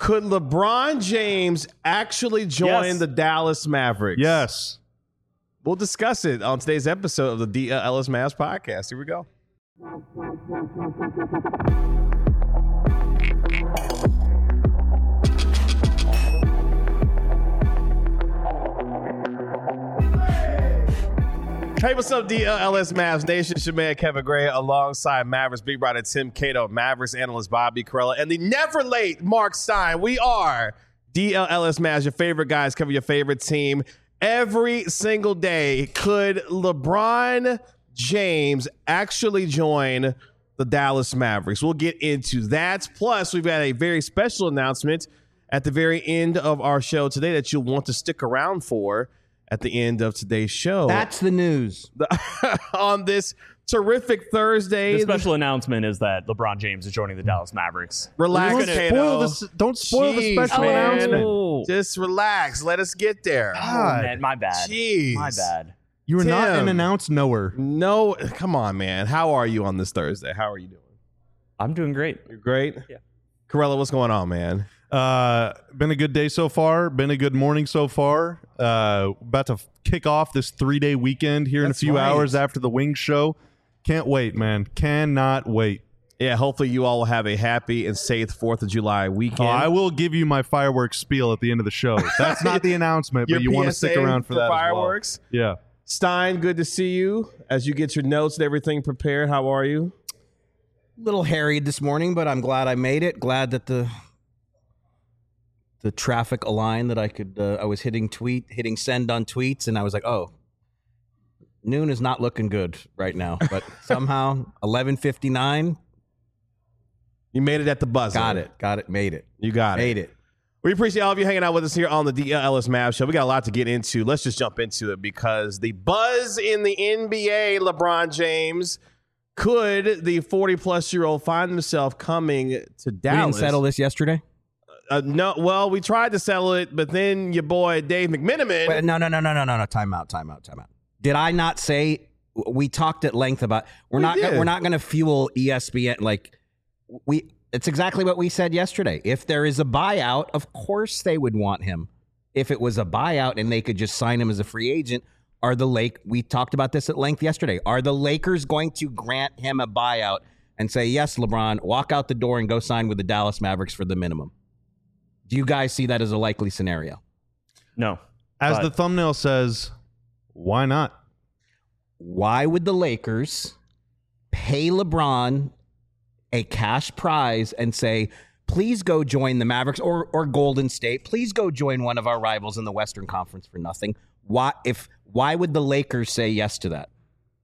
Could LeBron James actually join the Dallas Mavericks? Yes. We'll discuss it on today's episode of the D. Ellis Mavs podcast. Here we go. Hey, what's up, DLS Mavs Nation? Shemaya Kevin Gray alongside Mavericks Big Brother Tim Cato, Mavericks analyst Bobby Carella, and the never late Mark Stein. We are DLS Mavs, your favorite guys, cover your favorite team every single day. Could LeBron James actually join the Dallas Mavericks? We'll get into that. Plus, we've got a very special announcement at the very end of our show today that you'll want to stick around for at the end of today's show. That's the news. On this terrific Thursday. The special announcement is that LeBron James is joining the Dallas Mavericks. Relax, Cato. Don't spoil the special announcement. Oh. Just relax. Let us get there. Oh, man, my bad. Jeez. My bad. You are not Tim. an announced knower. No, come on, man. How are you on this Thursday? How are you doing? I'm doing great. You're great? Yeah. Carella, what's going on, man? Been a good day so far. Been a good morning so far. About to kick off this 3-day weekend here in a few hours after the Wings show. Can't wait, man. Cannot wait. Yeah, hopefully you all will have a happy and safe 4th of July weekend. I will give you my fireworks spiel at the end of the show. That's not the announcement, but you want to stick around for that fireworks? As well. Yeah. Stein, good to see you. As you get your notes and everything prepared, how are you? Little harried this morning, but I'm glad I made it. Glad that the traffic aligned, that I could. I was hitting send on tweets, and I was like, oh, noon is not looking good right now. But somehow 11:59. You made it at the buzzer. Got it. Made it. You got it. Made it. We appreciate all of you hanging out with us here on the DLS Mavs Show. We got a lot to get into. Let's just jump into it because the buzz in the NBA, LeBron James, could the 40-plus-year-old find himself coming to Dallas? We didn't settle this yesterday? No. Well, we tried to settle it, but then your boy Dave McMenamin. Wait, no. Time out. Did I not say we talked at length about we're not going to fuel ESPN It's exactly what we said yesterday. If there is a buyout, of course they would want him. If it was a buyout and they could just sign him as a free agent, we talked about this at length yesterday. Are the Lakers going to grant him a buyout and say, yes, LeBron, walk out the door and go sign with the Dallas Mavericks for the minimum? Do you guys see that as a likely scenario? No. As the thumbnail says, why not? Why would the Lakers pay LeBron a cash prize and say, please go join the Mavericks or Golden State. Please go join one of our rivals in the Western Conference for nothing. Why would the Lakers say yes to that?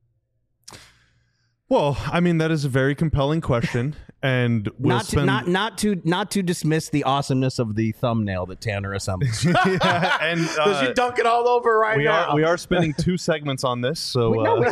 Well, I mean, that is a very compelling question, and not to dismiss the awesomeness of the thumbnail that Tanner assembled. And you dunk it all over now. We are spending 2 segments on this, so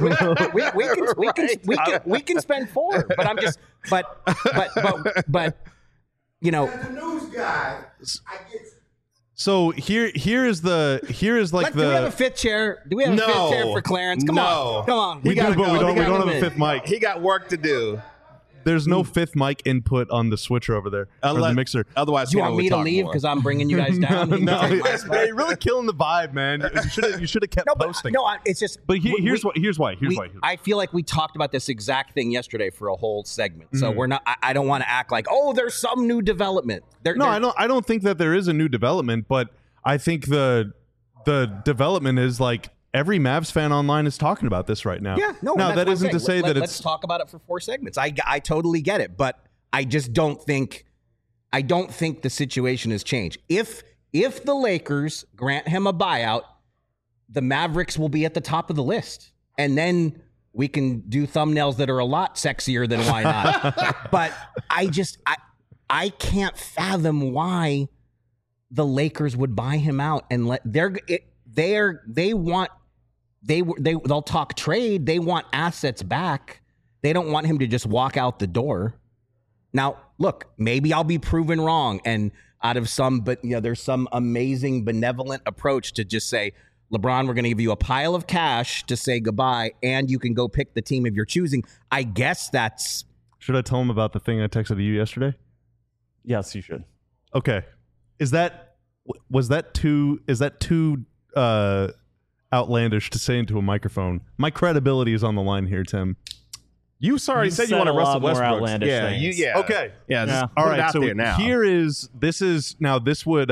we can spend 4. But I'm just but you know, the news guy. So here is like do we have a 5th chair? Do we have a 5th chair for Clarence? Come on. We do, but we don't have a 5th mic. He got work to do. There's no 5th mic input on the switcher over there, or the mixer. Otherwise, you want me to leave because I'm bringing you guys down? No, you're really killing the vibe, man. You should have kept posting. It's just. But here's why. I feel like we talked about this exact thing yesterday for a whole segment. So we're not. I don't want to act like, oh, there's some new development. I don't think that there is a new development, but I think the development is like every Mavs fan online is talking about this right now. Yeah, no. Now that isn't to say that it's. Let's talk about it for 4 segments. I totally get it, but I just don't think. I don't think the situation has changed. If the Lakers grant him a buyout, the Mavericks will be at the top of the list, and then we can do thumbnails that are a lot sexier than why not. But I can't fathom why the Lakers would buy him out and they'll talk trade. They want assets back. They don't want him to just walk out the door. Now, look, maybe I'll be proven wrong, and there's some amazing benevolent approach to just say, LeBron, we're going to give you a pile of cash to say goodbye, and you can go pick the team of your choosing. I guess that's. Should I tell him about the thing I texted you yesterday? Yes, you should. Okay. is that too outlandish to say into a microphone? My credibility is on the line here, Tim. You already said you want to Russell Westbrook. Outlandish things. Okay. Yeah. All right. So now. This would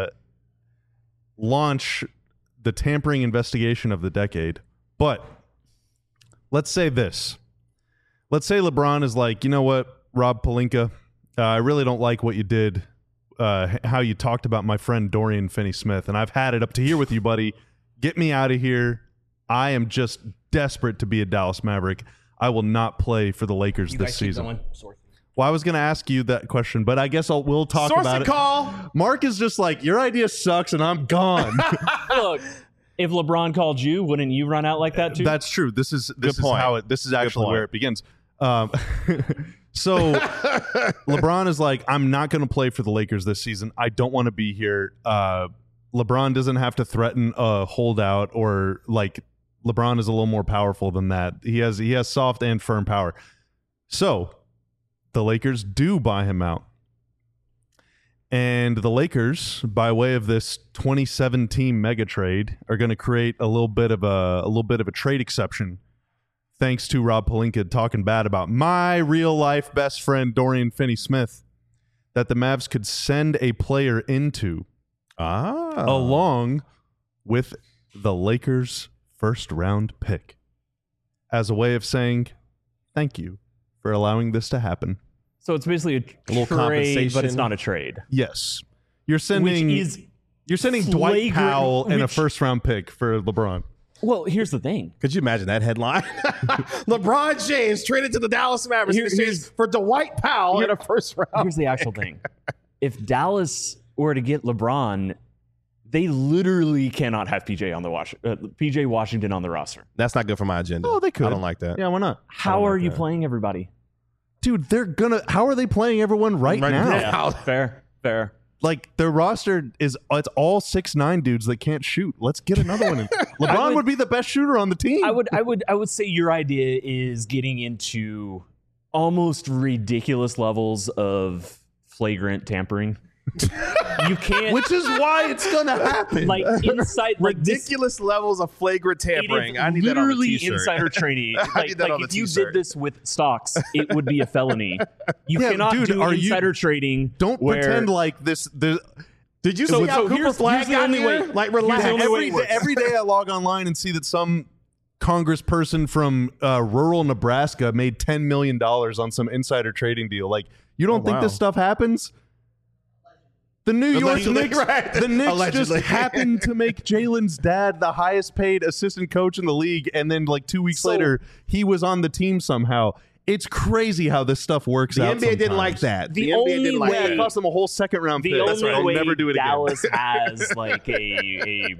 launch the tampering investigation of the decade. But let's say this. Let's say LeBron is like, you know what, Rob Pelinka, I really don't like what you did, how you talked about my friend Dorian Finney-Smith, and I've had it up to here with you, buddy. Get me out of here. I am just desperate to be a Dallas Maverick. I will not play for the Lakers this season. Well, I was going to ask you that question, but I guess we'll talk about it. Call. Mark is just like, your idea sucks, and I'm gone. Look, if LeBron called you, wouldn't you run out like that too? That's true. This is actually where it begins. So LeBron is like, I'm not going to play for the Lakers this season. I don't want to be here. LeBron doesn't have to threaten a holdout, or like LeBron is a little more powerful than that. He has soft and firm power. So the Lakers do buy him out. And the Lakers, by way of this 27-team mega trade, are going to create a little bit of a trade exception, thanks to Rob Pelinka talking bad about my real life best friend Dorian Finney-Smith, that the Mavs could send a player into, along with the Lakers' first round pick, as a way of saying thank you for allowing this to happen. So it's basically a little trade, compensation. but it's not a trade. Yes, you're sending Dwight Powell and a first round pick for LeBron. Well, here's the thing. Could you imagine that headline? LeBron James traded to the Dallas Mavericks for Dwight Powell in a first round. Here's the actual thing. If Dallas were to get LeBron, they literally cannot have PJ Washington on the roster. That's not good for my agenda. Oh, they could. I don't like that. Yeah, why not? How are you playing everybody? Dude, how are they playing everyone right now? Yeah, fair. Like, their roster it's all 6'9" dudes that can't shoot. Let's get another one in. LeBron would be the best shooter on the team. I would say your idea is getting into almost ridiculous levels of flagrant tampering. You can't, which is why it's gonna happen. Like inside, ridiculous levels of flagrant tampering. I need that on a t-shirt. Insider trading. I need that on if a you t-shirt. did this with stocks, it would be a felony. You cannot do insider trading. Don't pretend like this. Did you see how Cooper Flag got only here? way. Like, relax. Every day I log online and see that some congressperson from rural Nebraska made $10 million on some insider trading deal. Like, you don't think this stuff happens? The New York Knicks, the Knicks just happened to make Jalen's dad the highest paid assistant coach in the league, and then like 2 weeks later, he was on the team somehow. It's crazy how this stuff works out. The NBA didn't like that. The NBA didn't like that. It cost them a whole second round pick. That's right. They'll never do it again. Dallas has like a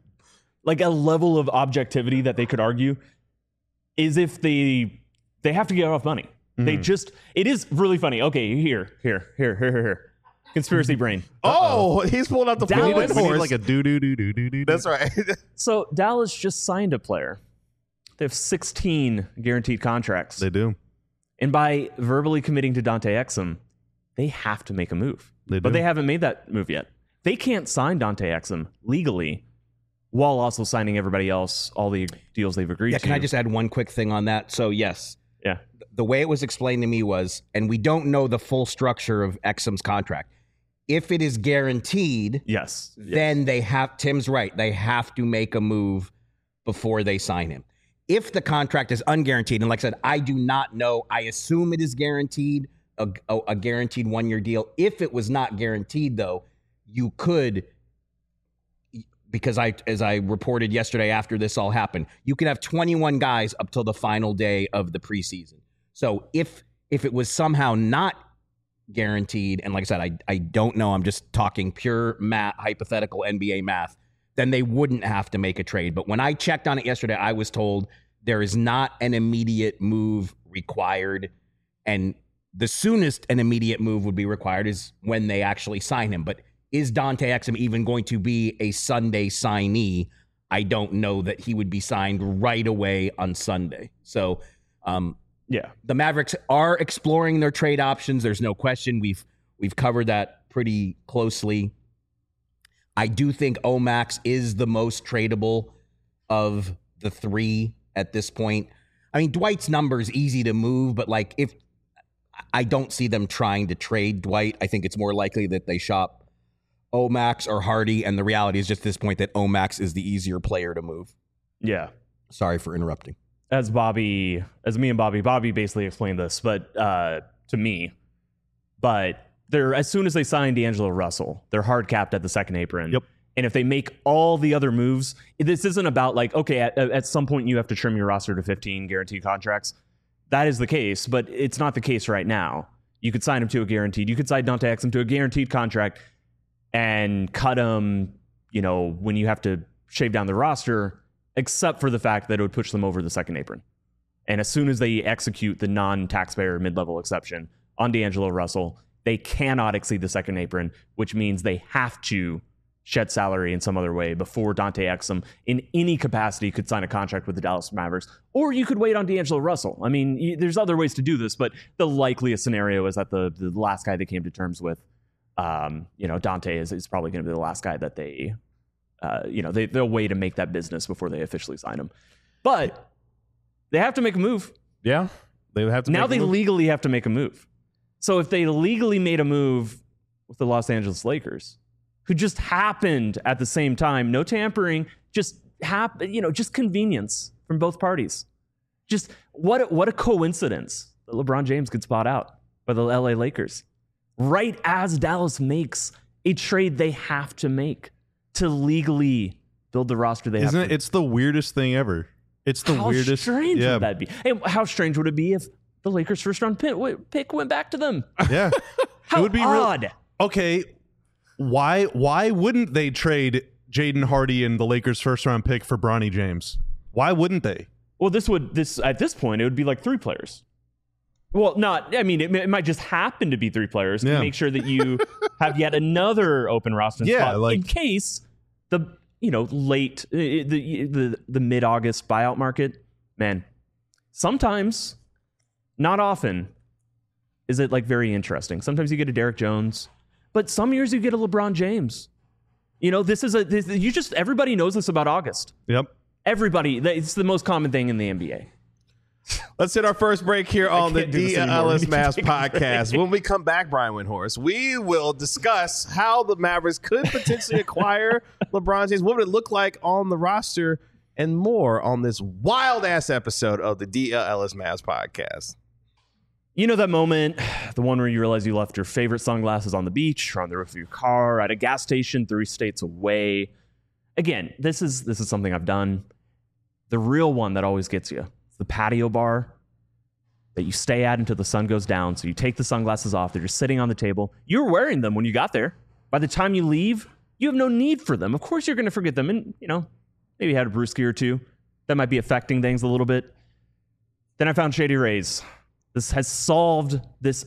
level of objectivity that they could argue is if they have to get off money. They just, it is really funny. Okay, here. Conspiracy brain. Oh, he's pulling out the Dallas. We need like a do. That's right. So Dallas just signed a player. They have 16 guaranteed contracts. They do. And by verbally committing to Dante Exum, they have to make a move. But they haven't made that move yet. They can't sign Dante Exum legally while also signing everybody else, all the deals they've agreed to. Can I just add one quick thing on that? So, yes. Yeah. The way it was explained to me was, and we don't know the full structure of Exum's contract. If it is guaranteed, yes, then Tim's right. They have to make a move before they sign him. If the contract is unguaranteed, and like I said, I do not know. I assume it is guaranteed, a guaranteed 1-year deal. If it was not guaranteed, though, you could, because as I reported yesterday after this all happened, you could have 21 guys up till the final day of the preseason. So if it was somehow not guaranteed, and like I said, I don't know, I'm just talking pure math, hypothetical NBA math, then they wouldn't have to make a trade. But when I checked on it yesterday, I was told there is not an immediate move required, and the soonest an immediate move would be required is when they actually sign him. But is Dante Exum even going to be a Sunday signee? I don't know that he would be signed right away on Sunday. So, the Mavericks are exploring their trade options. There's no question. We've covered that pretty closely I do think Omax is the most tradable of the three at this point. I mean, Dwight's number is easy to move, but like if I don't see them trying to trade Dwight, I think it's more likely that they shop Omax or Hardy. And the reality is just at this point that Omax is the easier player to move. Yeah. Sorry for interrupting. As me and Bobby basically explained this, but to me, but they're as soon as they sign D'Angelo Russell, they're hard capped at the second apron. Yep. And if they make all the other moves, this isn't about like, okay, at some point you have to trim your roster to 15 guaranteed contracts. That is the case, but it's not the case right now. You could sign him to a guaranteed. You could sign Dante Exum to a guaranteed contract and cut him, when you have to shave down the roster, except for the fact that it would push them over the second apron. And as soon as they execute the non-taxpayer mid-level exception on D'Angelo Russell, they cannot exceed the second apron, which means they have to shed salary in some other way before Dante Exum in any capacity could sign a contract with the Dallas Mavericks. Or you could wait on D'Angelo Russell. I mean, there's other ways to do this, but the likeliest scenario is that the last guy they came to terms with, Dante is probably going to be the last guy that they, they'll wait to make that business before they officially sign him. But they have to make a move. Yeah, they have to. Now they legally have to make a move. So if they legally made a move with the Los Angeles Lakers, who just happened at the same time, no tampering, just convenience from both parties. Just what a coincidence that LeBron James could spot out by the LA Lakers right as Dallas makes a trade they have to make to legally build the roster they have. Isn't it? It's the weirdest thing ever. It's the weirdest. How strange would that be? And how strange would it be if the Lakers' first-round pick went back to them? Yeah. How it would be odd. Okay. Why wouldn't they trade Jaden Hardy and the Lakers' first-round pick for Bronny James? Why wouldn't they? Well, at this point, it would be like 3 players. Well, it might just happen to be 3 players to make sure that you have yet another open roster spot in case the late the mid-August buyout market. Man, sometimes, not often, is it like very interesting. Sometimes you get a Derek Jones, but some years you get a LeBron James. Everybody knows this about August. Yep. Everybody, it's the most common thing in the NBA. Let's hit our first break here on the DLS Mavs podcast. When we come back, Brian Windhorst, we will discuss how the Mavericks could potentially acquire LeBron James. What would it look like on the roster and more on this wild-ass episode of the DLS Mavs podcast. You know that moment, the one where you realize you left your favorite sunglasses on the beach or on the roof of your car, at a gas station 3 states away. Again, this is something I've done. The real one that always gets you. It's the patio bar that you stay at until the sun goes down. So you take the sunglasses off. They're just sitting on the table. You were wearing them when you got there. By the time you leave, you have no need for them. Of course you're going to forget them. And, maybe you had a brewski or two. That might be affecting things a little bit. Then I found Shady Rays. This has solved this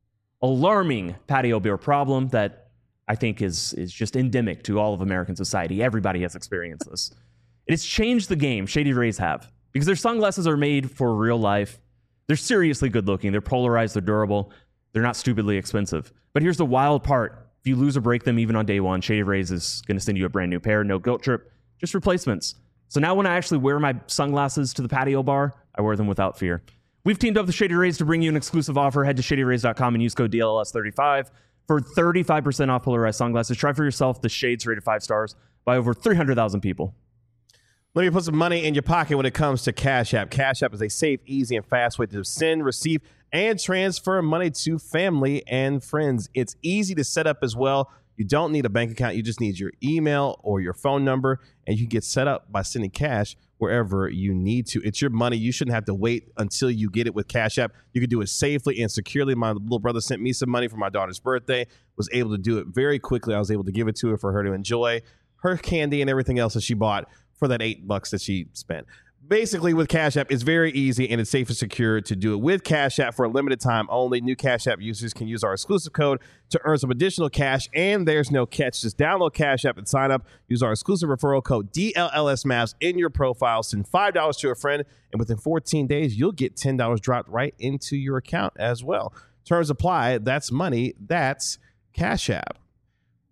alarming patio beer problem that I think is just endemic to all of American society. Everybody has experienced this. It's changed the game, Shady Rays have, because their sunglasses are made for real life. They're seriously good looking. They're polarized. They're durable. They're not stupidly expensive. But here's the wild part. If you lose or break them even on day one, Shady Rays is going to send you a brand new pair. No guilt trip, just replacements. So now when I actually wear my sunglasses to the patio bar, I wear them without fear. We've teamed up with Shady Rays to bring you an exclusive offer. Head to shadyrays.com and use code DLS35 for 35% off polarized sunglasses. Try for yourself the shades rated 5 stars by over 300,000 people. Let me put some money in your pocket when it comes to Cash App. Cash App is a safe, easy, and fast way to send, receive, and transfer money to family and friends. It's easy to set up as well. You don't need a bank account. You just need your email or your phone number, and you get set up by sending cash wherever you need to. It's your money. You shouldn't have to wait until you get it with Cash App. You can do it safely and securely. My little brother sent me some money for my daughter's birthday, was able to do it very quickly. I was able to give it to her for her to enjoy her candy and everything else that she bought for that $8 that she spent. Basically, with Cash App, it's very easy and it's safe and secure to do it with Cash App for a limited time only. New Cash App users can use our exclusive code to earn some additional cash, and there's no catch. Just download Cash App and sign up. Use our exclusive referral code DLLSMavs in your profile. Send $5 to a friend, and within 14 days, you'll get $10 dropped right into your account as well. Terms apply. That's money. That's Cash App.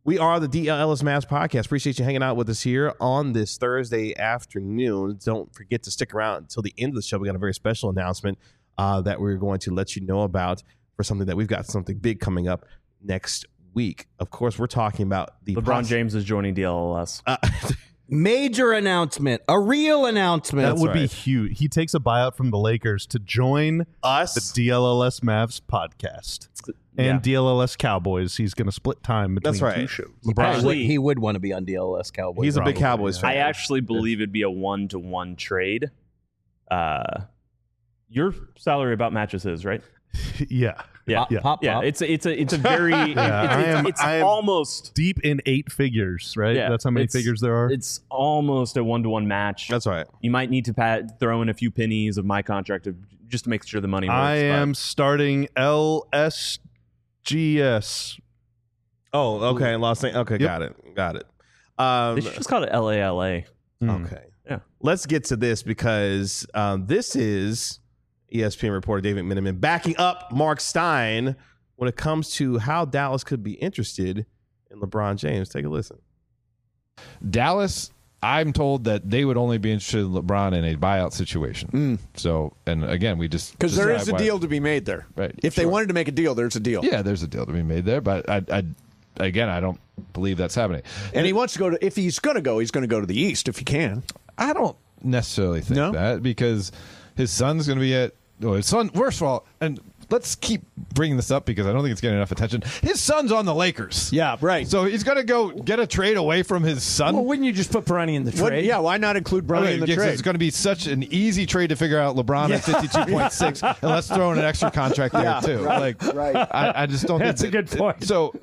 We are the DLS Mavs podcast. Appreciate you hanging out with us here on this Thursday afternoon. Don't forget to stick around until the end of the show. We got a very special announcement that we're going to let you know about for something that we've got something big coming up next week. Of course, we're talking about the LeBron James is joining DLS. Major announcement, a real announcement. That would be huge. He takes a buyout from the Lakers to join us, the DLLS Mavs podcast. And DLLS Cowboys. He's going to split time between two shows. LeBron, he would want to be on DLS Cowboys. He's a big Cowboys fan. I actually believe it'd be a 1-to-1 trade. Your salary about matches his, right? Yeah. Yeah. Pop. It's a very it's I am almost deep in 8 figures, right? Yeah, That's how many figures there are. It's almost a 1-to-1 match. That's right. You might need to throw in a few pennies of my contract just to make sure the money works. I am starting LSGS. Oh, okay. Los Angeles. Okay, Yep. got it. They should just call it LALA. Okay. Yeah. Let's get to this because this is ESPN reporter David McMenamin backing up Mark Stein when it comes to how Dallas could be interested in LeBron James. Take a listen. Dallas, I'm told that they would only be interested in LeBron in a buyout situation. So, and again, we just because there is a deal to be made there. Right. If they wanted to make a deal, there's a deal. Yeah, there's a deal to be made there, but I don't believe that's happening. And he wants to go to. If he's going to go, he's going to go to the East if he can. I don't necessarily think that because his son's going to be at. Well, his son, first of all, and let's keep bringing this up because I don't think it's getting enough attention. His son's on the Lakers. Yeah, right. So he's going to go get a trade away from his son. Well, wouldn't you just put Bronny in the trade? Why not include Bronny in the trade? It's going to be such an easy trade to figure out LeBron at 52.6, and let's throw in an extra contract there too. Right. I just don't That's think a good point. So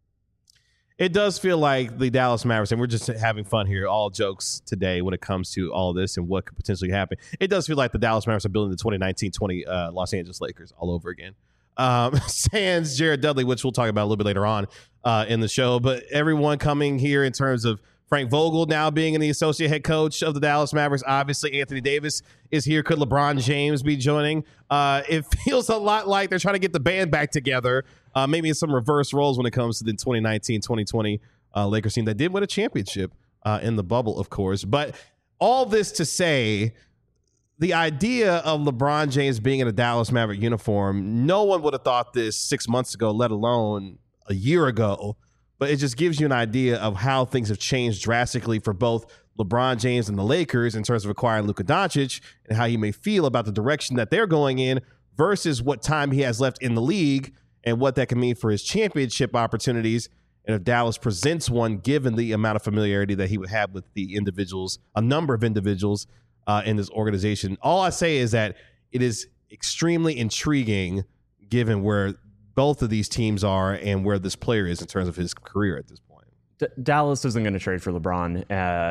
It does feel like the Dallas Mavericks, and we're just having fun here, all jokes today when it comes to all this and what could potentially happen. It does feel like the Dallas Mavericks are building the 2019-20 Los Angeles Lakers all over again. Sans Jared Dudley, which we'll talk about a little bit later on in the show. But everyone coming here in terms of Frank Vogel now being the associate head coach of the Dallas Mavericks. Obviously, Anthony Davis is here. Could LeBron James be joining? It feels a lot like they're trying to get the band back together. Maybe in some reverse roles when it comes to the 2019-2020 Lakers team that did win a championship in the bubble, of course. But all this to say, the idea of LeBron James being in a Dallas Maverick uniform, no one would have thought this 6 months ago, let alone a year ago. But it just gives you an idea of how things have changed drastically for both LeBron James and the Lakers in terms of acquiring Luka Doncic and how he may feel about the direction that they're going in versus what time he has left in the league and what that can mean for his championship opportunities. And if Dallas presents one, given the amount of familiarity that he would have with the individuals, a number of individuals in this organization. All I say is that it is extremely intriguing given where both of these teams are and where this player is in terms of his career at this point. Dallas isn't going to trade for LeBron.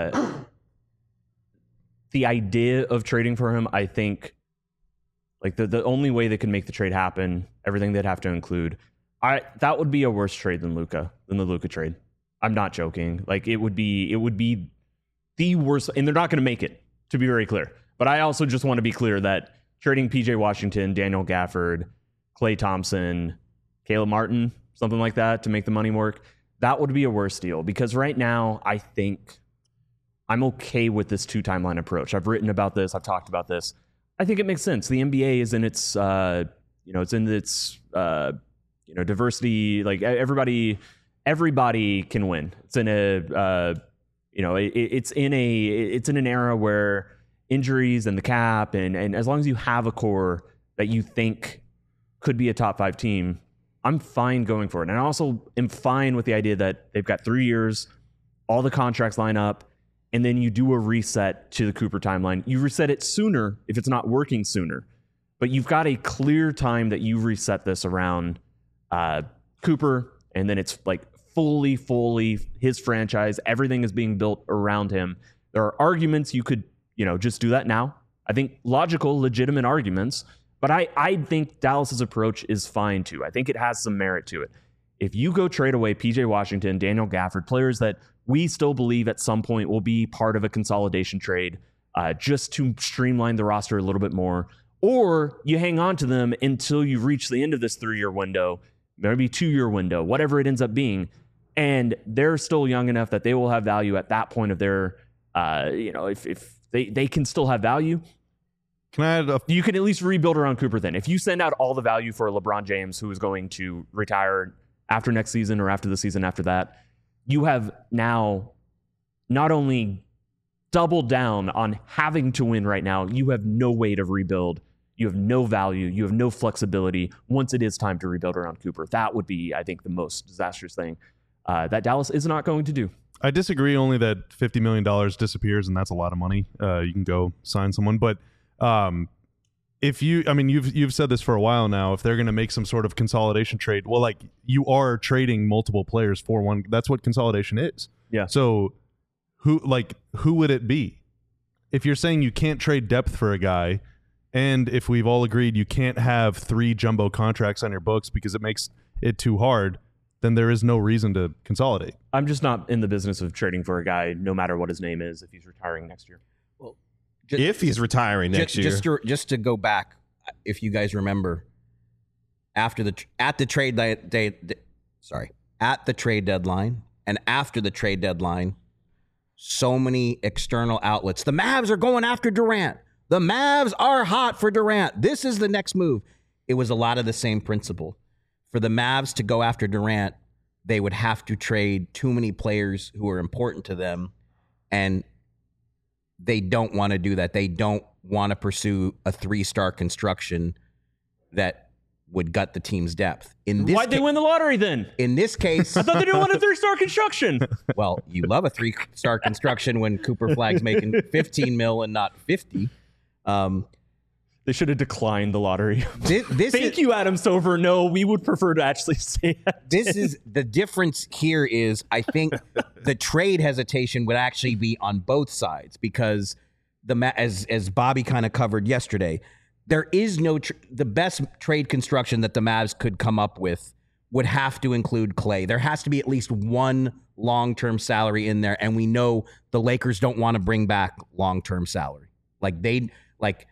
The idea of trading for him, I think, like the only way they could make the trade happen, everything they'd have to include, that would be a worse trade than the Luka trade. I'm not joking. Like it would be the worst, and they're not going to make it, to be very clear. But I also just want to be clear that trading PJ Washington, Daniel Gafford, Klay Thompson, Caleb Martin, something like that to make the money work, that would be a worse deal. Because right now, I think I'm okay with this 2-timeline approach. I've written about this. I've talked about this. I think it makes sense. The NBA is in its, diversity. Like everybody can win. It's in it's in an era where injuries and the cap and as long as you have a core that you think could be a top 5 team, I'm fine going for it. And I also am fine with the idea that they've got 3 years, all the contracts line up, and then you do a reset to the Cooper timeline. You reset it sooner if it's not working sooner. But you've got a clear time that you reset this around Cooper, and then it's like fully his franchise. Everything is being built around him. There are arguments you could, just do that now. I think logical, legitimate arguments. But I think Dallas's approach is fine too. I think it has some merit to it. If you go trade away PJ Washington, Daniel Gafford, players that we still believe at some point will be part of a consolidation trade just to streamline the roster a little bit more, or you hang on to them until you reach the end of this 3-year window, maybe 2-year window, whatever it ends up being, And they're still young enough that they will have value at that point of their, if they can still have value. Can I add you can at least rebuild around Cooper then. If you send out all the value for LeBron James, who is going to retire after next season or after the season after that, you have now not only doubled down on having to win right now, you have no way to rebuild. You have no value. You have no flexibility once it is time to rebuild around Cooper. That would be, I think, the most disastrous thing that Dallas is not going to do. I disagree only that $50 million disappears, and that's a lot of money. You can go sign someone. But if you've said this for a while now, if they're going to make some sort of consolidation trade, well, like you are trading multiple players for one. That's what consolidation is. Yeah. So who would it be? If you're saying you can't trade depth for a guy, and if we've all agreed you can't have 3 jumbo contracts on your books because it makes it too hard, then there is no reason to consolidate. I'm just not in the business of trading for a guy, no matter what his name is, if he's retiring next year. Well, if he's retiring next year. Just to go back, if you guys remember, at the trade deadline and after the trade deadline, so many external outlets. The Mavs are going after Durant. The Mavs are hot for Durant. This is the next move. It was a lot of the same principle. For the Mavs to go after Durant, they would have to trade too many players who are important to them, and they don't want to do that. They don't want to pursue a 3-star construction that would gut the team's depth. Why'd they win the lottery then? In this case, I thought they didn't want a 3-star construction. Well, you love a 3-star construction when Cooper Flag's making 15 mil and not 50. They should have declined the lottery. Thank you, Adam Silver. No, we would prefer to actually say that. This is the difference here is I think the trade hesitation would actually be on both sides because as Bobby kind of covered yesterday, there is no the best trade construction that the Mavs could come up with would have to include Klay. There has to be at least one long-term salary in there, and we know the Lakers don't want to bring back long-term salary. Like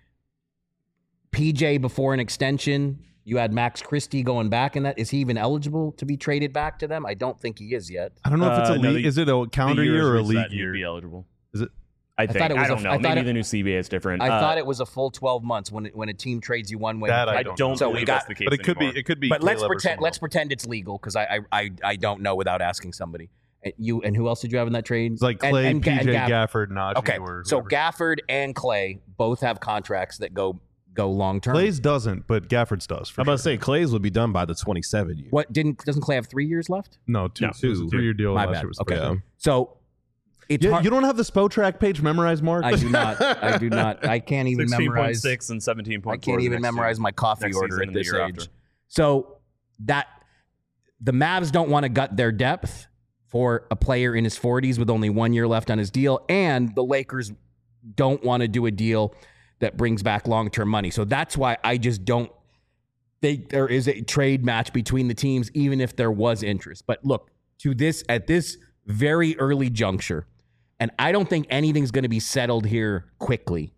PJ before an extension, you had Max Christie going back in that. Is he even eligible to be traded back to them? I don't think he is yet. I don't know if it's a league. Is it a calendar year or a league year? He'd be eligible. Is it? I don't know. Maybe the new CBA is different. I thought it was a full 12 months when a team trades you one way. That I don't so believe that's the case. But it could be. It could be. But let's pretend it's legal because I don't know without asking somebody. And who else did you have in that trade? It's like Klay, PJ, Gafford, Najee. Okay, so Gafford and Klay both have contracts that go long term. Klay's doesn't, but Gafford's does. I'm about to say Klay's would be done by the 27 year. What doesn't Klay have 3 years left? No, two. 3-year deal. My last bad. year was Okay, yeah. so it's hard. You don't have the Spotrac page memorized, Mark? I do not. I can't even memorize 16.6 and 17.4. I can't even memorize my coffee order at this age. So that the Mavs don't want to gut their depth for a player in his 40s with only 1 year left on his deal, and the Lakers don't want to do a deal that brings back long-term money. So that's why I just don't think there is a trade match between the teams, even if there was interest. But look, at this very early juncture, and I don't think anything's going to be settled here quickly.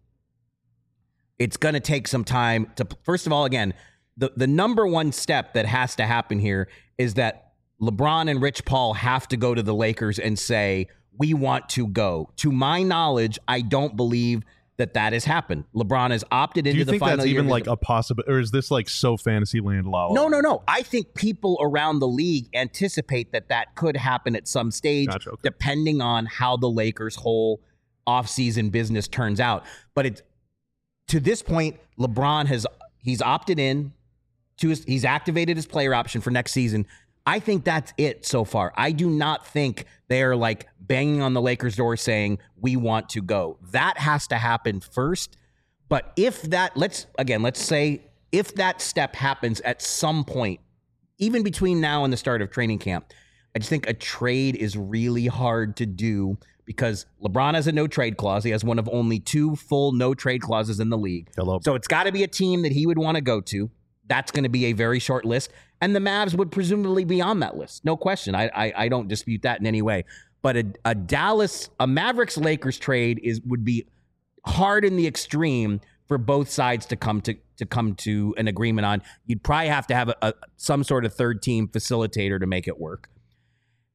It's going to take some time to, first of all, again, the number one step that has to happen here is that LeBron and Rich Paul have to go to the Lakers and say, we want to go. To my knowledge, I don't believe that has happened. LeBron has opted into the final year. Do you think that's even like a possibility, or is this like so fantasy land? No. I think people around the league anticipate that could happen at some stage, depending on how the Lakers' whole offseason business turns out. But to this point, LeBron he's opted in he's activated his player option for next season. I think that's it so far. I do not think they're like banging on the Lakers' door saying, we want to go. That has to happen first. But let's say if that step happens at some point, even between now and the start of training camp, I just think a trade is really hard to do because LeBron has a no trade clause. He has one of only 2 full no trade clauses in the league. So it's got to be a team that he would want to go to. That's going to be a very short list. And the Mavs would presumably be on that list. No question. I don't dispute that in any way. But a Mavericks-Lakers trade would be hard in the extreme for both sides to come to an agreement on. You'd probably have to have some sort of third team facilitator to make it work.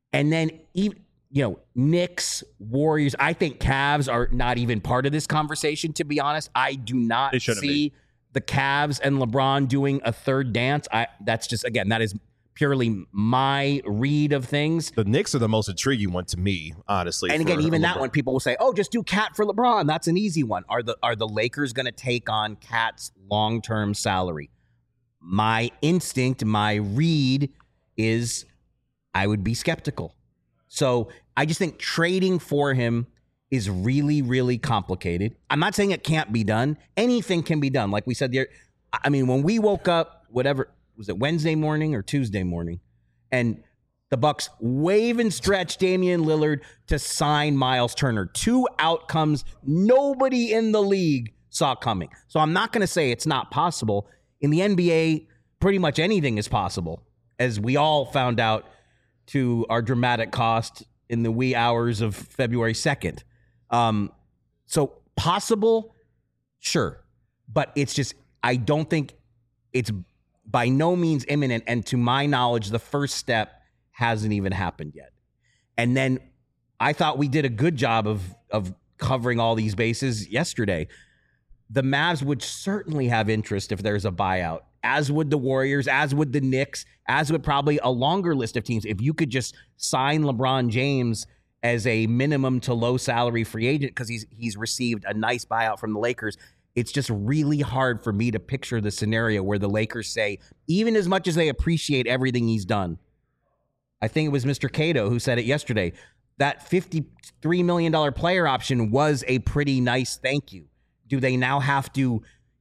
And then even, Knicks, Warriors, I think Cavs are not even part of this conversation, to be honest. I do not see the Cavs and LeBron doing a third dance. That's just, again, that is purely my read of things. The Knicks are the most intriguing one to me, honestly. And again, even that one, people will say, "Oh, just do Cat for LeBron. That's an easy one." Are the Lakers going to take on Cat's long-term salary? My instinct, my read is I would be skeptical. So I just think trading for him is really, really complicated. I'm not saying it can't be done. Anything can be done. Like we said there, I mean, when we woke up, whatever, was it Wednesday morning or Tuesday morning? And the Bucks wave and stretch Damian Lillard to sign Miles Turner. Two outcomes nobody in the league saw coming. So I'm not going to say it's not possible. In the NBA, pretty much anything is possible, as we all found out to our dramatic cost in the wee hours of February 2nd. So possible, sure. But it's just, I don't think it's by no means imminent. And to my knowledge, the first step hasn't even happened yet. And then I thought we did a good job of covering all these bases yesterday. The Mavs would certainly have interest if there's a buyout, as would the Warriors, as would the Knicks, as would probably a longer list of teams. If you could just sign LeBron James as a minimum to low salary free agent because he's received a nice buyout from the Lakers, it's just really hard for me to picture the scenario where the Lakers say, even as much as they appreciate everything he's done, I think it was Mr. Cato who said it yesterday, that $53 million player option was a pretty nice thank you. Do they now have to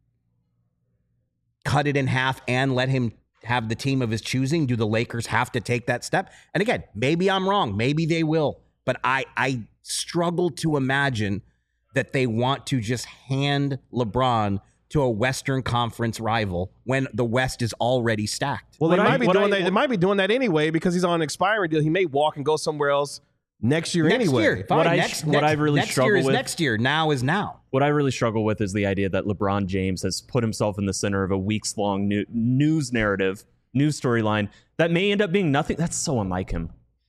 cut it in half and let him have the team of his choosing? Do the Lakers have to take that step? And again, maybe I'm wrong. Maybe they will. But I struggle to imagine that they want to just hand LeBron to a Western Conference rival when the West is already stacked. Well, they might be doing that. They might be doing that anyway because he's on an expiring deal. He may walk and go somewhere else next year anyway. Year, next year is next year. Now is now. What I really struggle with is the idea that LeBron James has put himself in the center of a weeks-long news narrative, news storyline that may end up being nothing. That's so unlike him.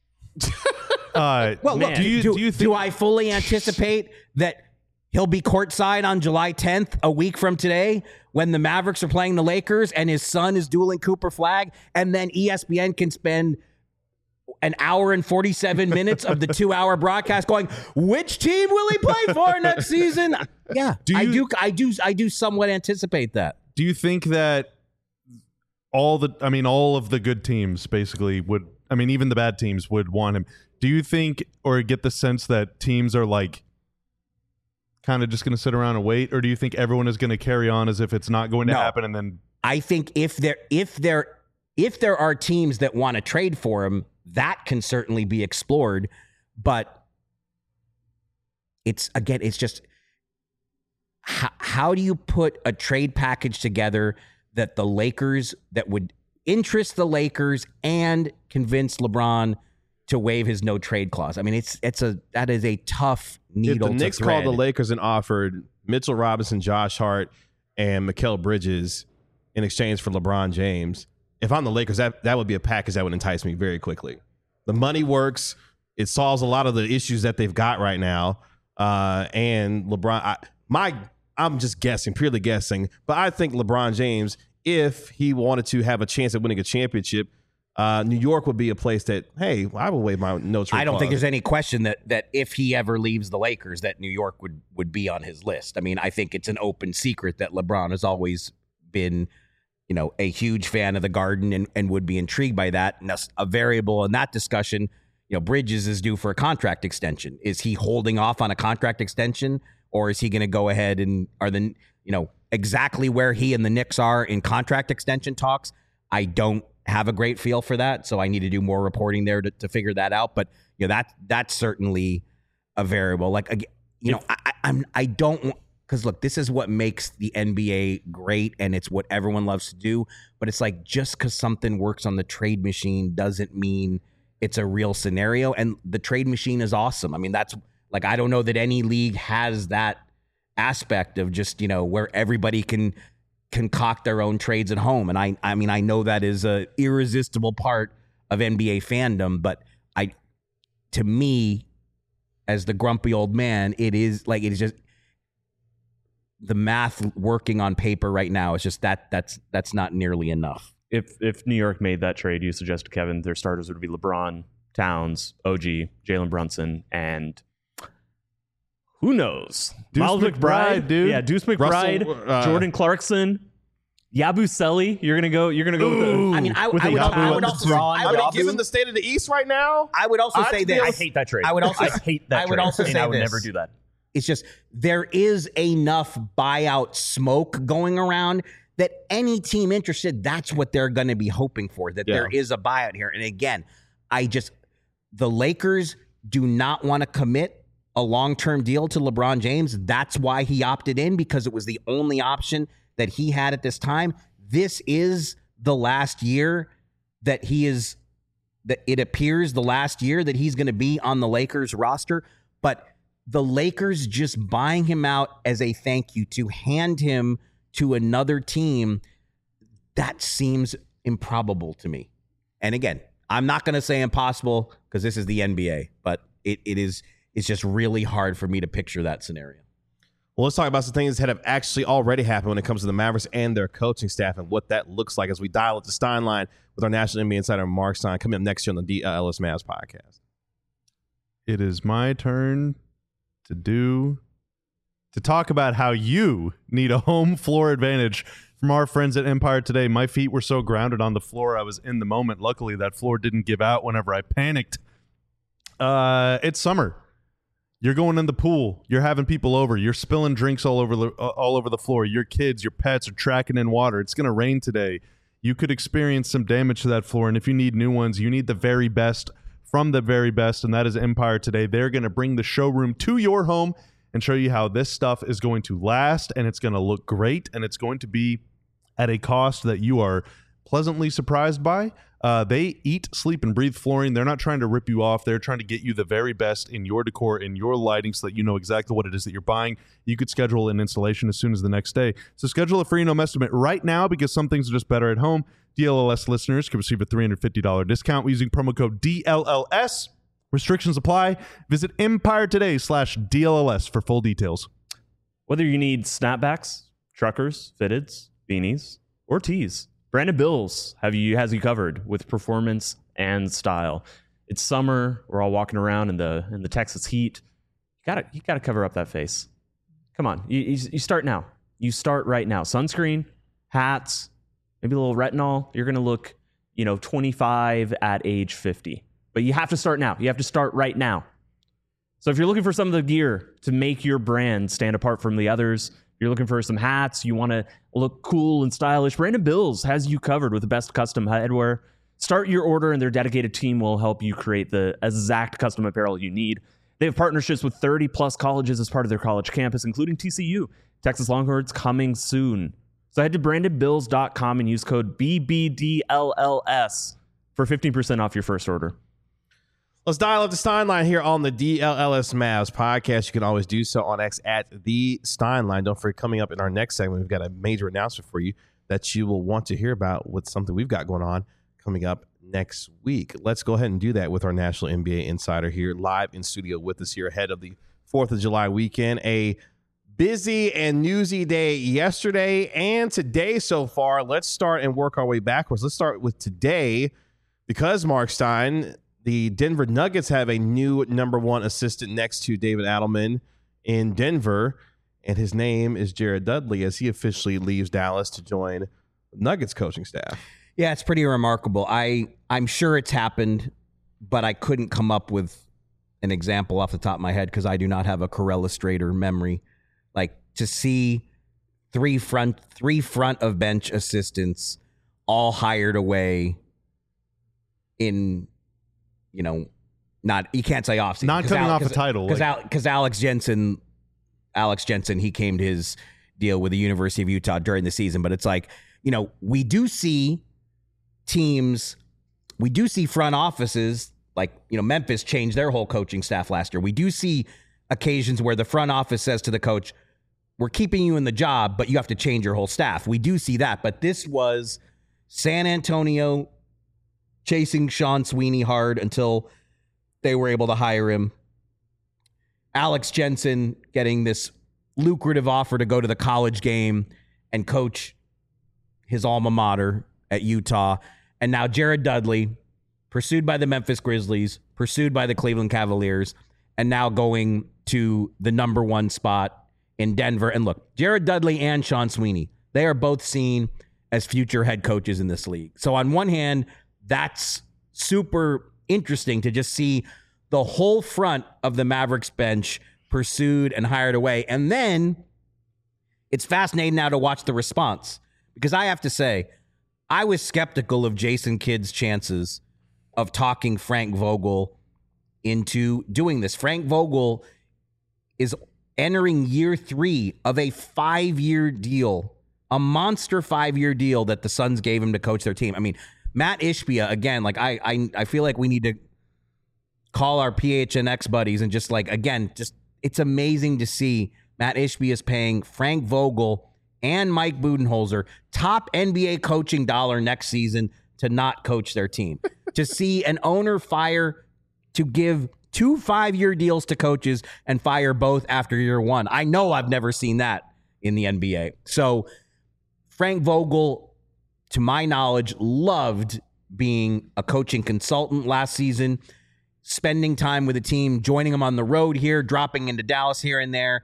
Well, look, do I fully anticipate that he'll be courtside on July 10th, a week from today, when the Mavericks are playing the Lakers and his son is dueling Cooper Flag, and then ESPN can spend an hour and 47 minutes of the 2-hour broadcast going, which team will he play for next season? Yeah, I do somewhat anticipate that. Do you think that all of the good teams basically would, even the bad teams would want him? Do you think or get the sense that teams are like kind of just going to sit around and wait, or do you think everyone is going to carry on as if it's not going to happen? And then I think if there are teams that want to trade for him, that can certainly be explored. But it's just how do you put a trade package together that would interest the Lakers and convince LeBron to waive his no trade clause? That is a tough needle to thread. If the Knicks called the Lakers and offered Mitchell Robinson, Josh Hart, and Mikal Bridges in exchange for LeBron James, if I'm the Lakers, that would be a package that would entice me very quickly. The money works. It solves a lot of the issues that they've got right now. And LeBron, I'm just guessing, purely guessing, but I think LeBron James, if he wanted to have a chance at winning a championship, New York would be a place that, hey, I will waive my no trade. I don't think there's any question that if he ever leaves the Lakers, that New York would be on his list. I think it's an open secret that LeBron has always been, a huge fan of the Garden and would be intrigued by that. And a variable in that discussion, Bridges is due for a contract extension. Is he holding off on a contract extension, or is he going to go ahead and exactly where he and the Knicks are in contract extension talks? I don't have a great feel for that, so I need to do more reporting there to figure that out. But that's certainly a variable. I don't, because look, this is what makes the NBA great, and it's what everyone loves to do. But it's like, just because something works on the trade machine doesn't mean it's a real scenario. And the trade machine is awesome. That's like, I don't know that any league has that aspect of just where everybody can concoct their own trades at home. And I know that is a irresistible part of NBA fandom, but to me, as the grumpy old man, it is just the math working on paper right now is just that's not nearly enough. If New York made that trade, you suggested, Kevin, their starters would be LeBron, Towns, OG, Jalen Brunson, and who knows? Deuce Miles McBride, dude. Yeah, Deuce McBride, Jordan Clarkson, Yabusele. You're gonna go with the, I mean, I would also given the state of the East right now, I would also say this. I hate that trade. I would also hate that. I would trade, also say I would this. never do that. It's just there is enough buyout smoke going around that any team interested, that's what they're going to be hoping for, that there is a buyout here. And again, the Lakers do not want to commit a long-term deal to LeBron James. That's why he opted in, because it was the only option that he had at this time. This is the last year that it appears the last year that he's going to be on the Lakers roster. But the Lakers just buying him out as a thank you to hand him to another team, that seems improbable to me. And again, I'm not going to say impossible because this is the NBA, but it's just really hard for me to picture that scenario. Well, let's talk about some things that have actually already happened when it comes to the Mavericks and their coaching staff and what that looks like as we dial up the Stein line with our National NBA insider, Mark Stein, coming up next year on the DLS Mavs podcast. It is my turn to talk about how you need a home floor advantage from our friends at Empire Today. My feet were so grounded on the floor, I was in the moment. Luckily, that floor didn't give out whenever I panicked. It's summer. You're going in the pool. You're having people over. You're spilling drinks all over the floor. Your kids, your pets are tracking in water. It's going to rain today. You could experience some damage to that floor, and if you need new ones, you need the very best from the very best, and that is Empire Today. They're going to bring the showroom to your home and show you how this stuff is going to last, and it's going to look great, and it's going to be at a cost that you are pleasantly surprised by. They eat, sleep, and breathe flooring. They're not trying to rip you off. They're trying to get you the very best in your decor, in your lighting, so that you know exactly what it is that you're buying. You could schedule an installation as soon as the next day. So schedule a free no estimate right now, because some things are just better at home. DLLS listeners can receive a $350 discount using promo code DLLS. Restrictions apply. Visit EmpireToday.com/DLLS for full details. Whether you need snapbacks, truckers, fitteds, beanies, or tees, Brandon Bills has you covered with performance and style. It's summer. We're all walking around in the Texas heat. You gotta cover up that face. Come on, you start now. You start right now. Sunscreen, hats, maybe a little retinol. You're gonna look, 25 at age 50. But you have to start now. You have to start right now. So if you're looking for some of the gear to make your brand stand apart from the others, you're looking for some hats, you want to look cool and stylish, Brandon Bills has you covered with the best custom headwear. Start your order, and their dedicated team will help you create the exact custom apparel you need. They have partnerships with 30-plus colleges as part of their college campus, including TCU. Texas Longhorns coming soon. So head to BrandonBills.com and use code BBDLLS for 15% off your first order. Let's dial up the Stein line here on the DLLS Mavs podcast. You can always do so on X at the Stein line. Don't forget, coming up in our next segment, we've got a major announcement for you that you will want to hear about with something we've got going on coming up next week. Let's go ahead and do that with our National NBA Insider here live in studio with us here ahead of the 4th of July weekend. A busy and newsy day yesterday and today so far. Let's start and work our way backwards. Let's start with today, because Mark Stein, the Denver Nuggets have a new number one assistant next to David Adelman in Denver, and his name is Jared Dudley as he officially leaves Dallas to join the Nuggets coaching staff. Yeah, it's pretty remarkable. I'm sure it's happened, but I couldn't come up with an example off the top of my head because I do not have a Corellistrator memory. Like, to see three front of bench assistants all hired away in, not, you can't say off season. Not coming off a title. Because Alex Jensen, he came to his deal with the University of Utah during the season. But it's like, we do see front offices, like, Memphis changed their whole coaching staff last year. We do see occasions where the front office says to the coach, we're keeping you in the job, but you have to change your whole staff. We do see that. But this was San Antonio chasing Sean Sweeney hard until they were able to hire him. Alex Jensen getting this lucrative offer to go to the college game and coach his alma mater at Utah. And now Jared Dudley, pursued by the Memphis Grizzlies, pursued by the Cleveland Cavaliers, and now going to the number 1 spot in Denver. And look, Jared Dudley and Sean Sweeney, they are both seen as future head coaches in this league. So on one hand, that's super interesting to just see the whole front of the Mavericks bench pursued and hired away. And then it's fascinating now to watch the response, because I have to say, I was skeptical of Jason Kidd's chances of talking Frank Vogel into doing this. Frank Vogel is entering year 3 of a 5-year deal, a monster 5-year deal that the Suns gave him to coach their team. I mean, Matt Ishbia, again, like I feel like we need to call our PHNX buddies and just it's amazing to see Matt Ishbia is paying Frank Vogel and Mike Budenholzer top NBA coaching dollar next season to not coach their team. To see an owner to give 2 5-year deals to coaches and fire both after year 1. I know I've never seen that in the NBA. So Frank Vogel, to my knowledge, loved being a coaching consultant last season, spending time with the team, joining them on the road here, dropping into Dallas here and there.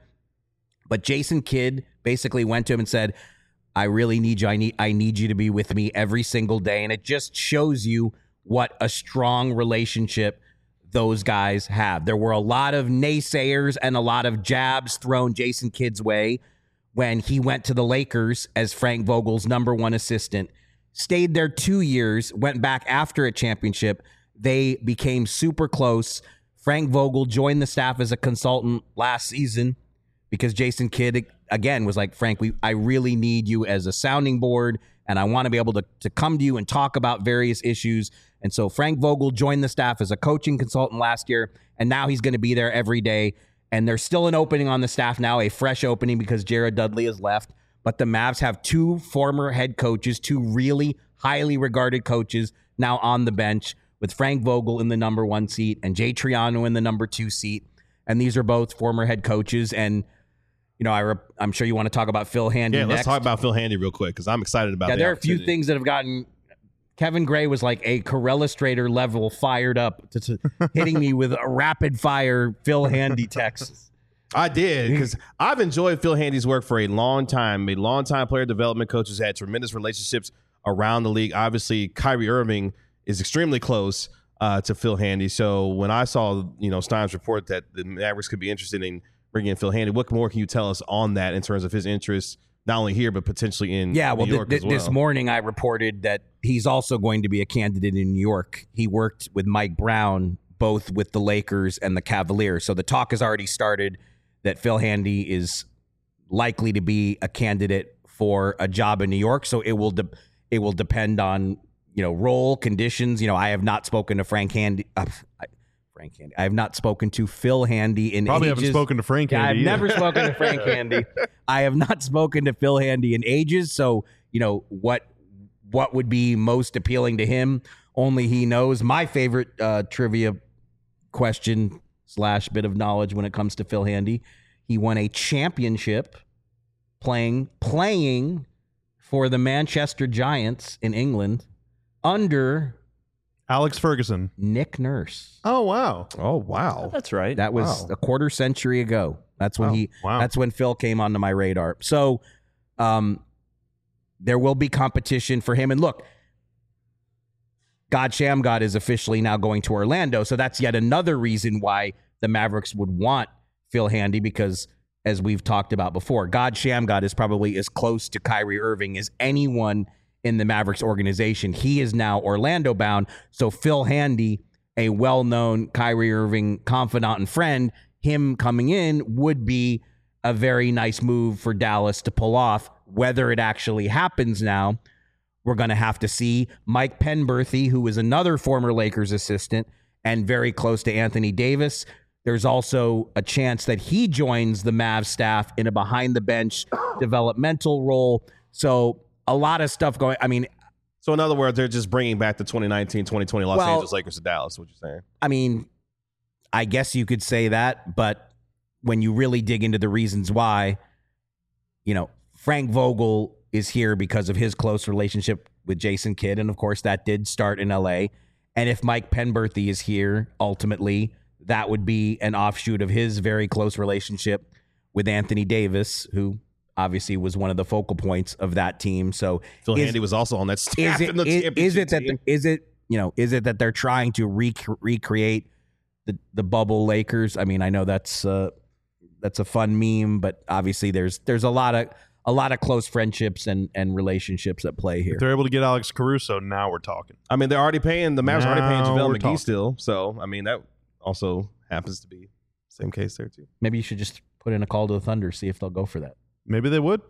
But Jason Kidd basically went to him and said, I really need you. I need you to be with me every single day. And it just shows you what a strong relationship those guys have. There were a lot of naysayers and a lot of jabs thrown Jason Kidd's way when he went to the Lakers as Frank Vogel's number 1 assistant, stayed there 2 years, went back after a championship. They became super close. Frank Vogel joined the staff as a consultant last season because Jason Kidd, again, was like, Frank, I really need you as a sounding board, and I want to be able to come to you and talk about various issues. And so Frank Vogel joined the staff as a coaching consultant last year, and now he's going to be there every day. And there's still an opening on the staff now, a fresh opening because Jared Dudley has left. But the Mavs have 2 former head coaches, 2 really highly regarded coaches now on the bench, with Frank Vogel in the number 1 seat and Jay Triano in the number 2 seat. And these are both former head coaches. And, you know, I'm sure you want to talk about Phil Handy next. Let's talk about Phil Handy real quick because I'm excited about there are a few things that have gotten Kevin Gray was like a Corella Strader level fired up to hitting me with a rapid fire Phil Handy text. I did, because I've enjoyed Phil Handy's work for a long time. A long-time player development coach who's had tremendous relationships around the league. Obviously, Kyrie Irving is extremely close to Phil Handy. So when I saw, Stein's report that the Mavericks could be interested in bringing in Phil Handy, what more can you tell us on that in terms of his interest, not only here, but potentially in New York as well? This morning I reported that he's also going to be a candidate in New York. He worked with Mike Brown, both with the Lakers and the Cavaliers. So the talk has already started that Phil Handy is likely to be a candidate for a job in New York. So it will depend on, role, conditions. I have not spoken to Frank Handy. I have not spoken to Phil Handy in Probably ages. Haven't spoken to Frank Handy. I've never spoken to Frank Handy. I have not spoken to Phil Handy in ages. So, what would be most appealing to him? Only he knows. My favorite trivia question / bit of knowledge when it comes to Phil Handy. He won a championship playing for the Manchester Giants in England under Alex Ferguson. Nick Nurse. Oh, wow. Oh, wow. That's right. That was a quarter century ago. That's when that's when Phil came onto my radar. So there will be competition for him. And look, God Shammgod is officially now going to Orlando. So that's yet another reason why the Mavericks would want Phil Handy, because as we've talked about before, God Shammgod is probably as close to Kyrie Irving as anyone in the Mavericks organization. He is now Orlando bound. So Phil Handy, a well-known Kyrie Irving confidant and friend, him coming in would be a very nice move for Dallas to pull off. Whether it actually happens now, we're going to have to see. Mike Penberthy, who is another former Lakers assistant and very close to Anthony Davis, there's also a chance that he joins the Mavs staff in a behind-the-bench developmental role. So a lot of stuff going. So in other words, they're just bringing back the 2019-2020 Los Angeles Lakers to Dallas, what you're saying? I mean, I guess you could say that, but when you really dig into the reasons why, Frank Vogel is here because of his close relationship with Jason Kidd, and of course that did start in LA. And if Mike Penberthy is here, ultimately, that would be an offshoot of his very close relationship with Anthony Davis, who obviously was one of the focal points of that team. So Phil Handy was also on that staff in the championship team. Is it that they're trying to recreate the bubble Lakers? I mean, I know that's a fun meme, but obviously there's a lot of close friendships and relationships at play here. If they're able to get Alex Caruso, now we're talking. I mean, the Mavs are already paying JaVale McGee talking. still. So, I mean, that also happens to be the same case there, too. Maybe you should just put in a call to the Thunder, see if they'll go for that. Maybe they would.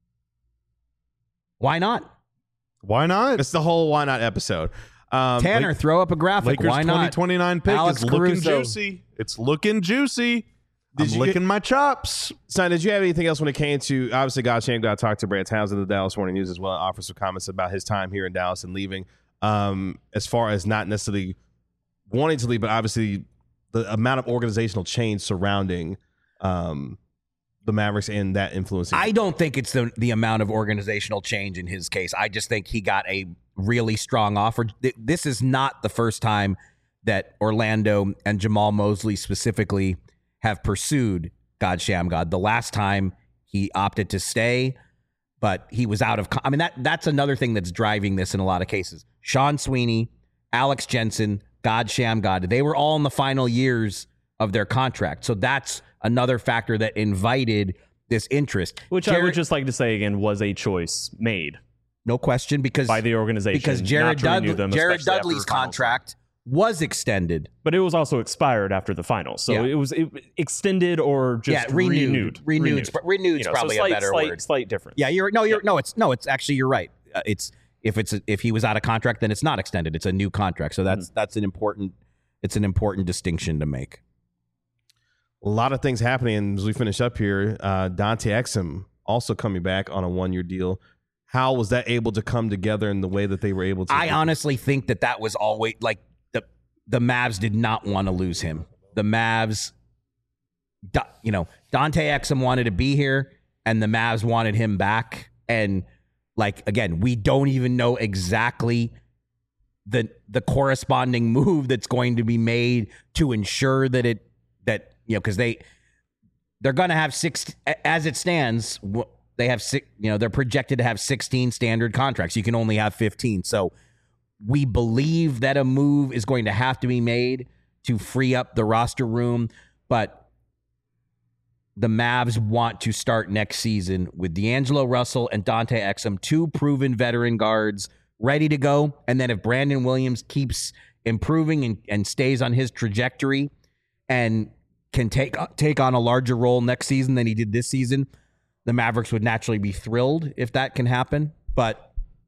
Why not? Why not? It's the whole why not episode. Tanner, throw up a graphic. Lakers Why not? 2029 pick Alex is looking Caruso. juicy. It's looking juicy. I'm licking my chops. Son, did you have anything else when it came to, obviously, God talked to Brad Townsend of the Dallas Morning News as well, and offered some comments about his time here in Dallas and leaving, as far as not necessarily wanting to leave, but obviously the amount of organizational change surrounding the Mavericks and that influencing. I don't think it's the amount of organizational change in his case. I just think he got a really strong offer. This is not the first time that Orlando and Jamal Mosley specifically have pursued God Shammgod. The last time he opted to stay, but he was out of. I mean, that's another thing that's driving this in a lot of cases. Sean Sweeney, Alex Jensen, God Shammgod, they were all in the final years of their contract. So that's another factor that invited this interest. Which I would just like to say again was a choice made. No question, because by the organization. Because Jared Dudley's contract was extended. But it was also expired after the finals. So it was extended or just renewed. Renewed's probably a better word. Slight difference. Yeah, it's actually you're right. If he was out of contract, then it's not extended. It's a new contract. So that's an important distinction to make. A lot of things happening as we finish up here. Dante Exum also coming back on a 1-year deal. How was that able to come together in the way that they were able to? I honestly think that was always like the Mavs did not want to lose him. The Mavs, Dante Exum wanted to be here, and the Mavs wanted him back. And again, we don't even know exactly the corresponding move that's going to be made to ensure that because they're going to have 6 as it stands. They have 6. They're projected to have 16 standard contracts. You can only have 15. So we believe that a move is going to have to be made to free up the roster room, but the Mavs want to start next season with D'Angelo Russell and Dante Exum, 2 proven veteran guards ready to go. And then if Brandon Williams keeps improving and stays on his trajectory and can take on a larger role next season than he did this season, the Mavericks would naturally be thrilled if that can happen. But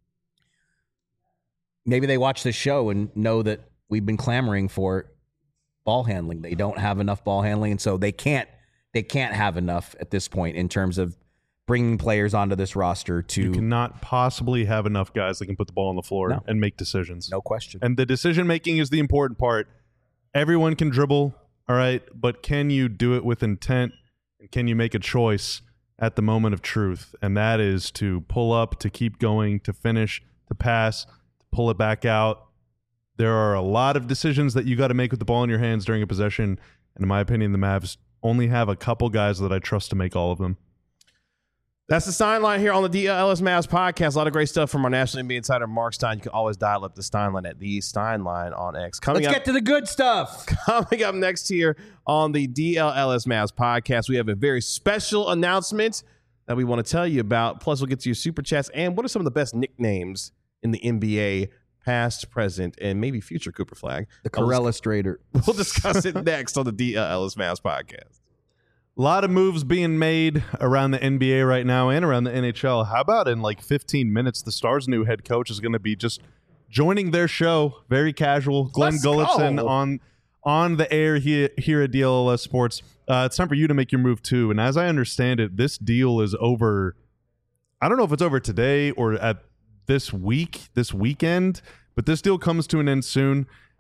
maybe they watch this show and know that we've been clamoring for ball handling. They don't have enough ball handling, and so they can't have enough at this point in terms of bringing players onto this roster to. You cannot possibly have enough guys that can put the ball on the floor and make decisions. No question. And the decision making is the important part. Everyone can dribble, all right, but can you do it with intent? And can you make a choice at the moment of truth? And that is to pull up, to keep going, to finish, to pass, to pull it back out. There are a lot of decisions that you got to make with the ball in your hands during a possession. And in my opinion, the Mavs only have a couple guys that I trust to make all of them. That's the Stein Line here on the DLS Mavs podcast. A lot of great stuff from our National NBA insider, Mark Stein. You can always dial up the Stein Line at the Stein Line on X. Let's get to the good stuff. Coming up next here on the DLS Mavs podcast, we have a very special announcement that we want to tell you about. Plus, we'll get to your super chats and what are some of the best nicknames in the NBA, past, present, and maybe future Cooper Flag. The Corellustrator. We'll discuss it next on the DLS Mavs podcast. A lot of moves being made around the NBA right now and around the NHL. How about in 15 minutes, the Stars' new head coach is going to be just joining their show, very casual. Glenn Gulletson on the air here at DLS Sports. It's time for you to make your move too. And as I understand it, this deal is over. I don't know if it's over today or at this weekend, but this deal comes to an end soon.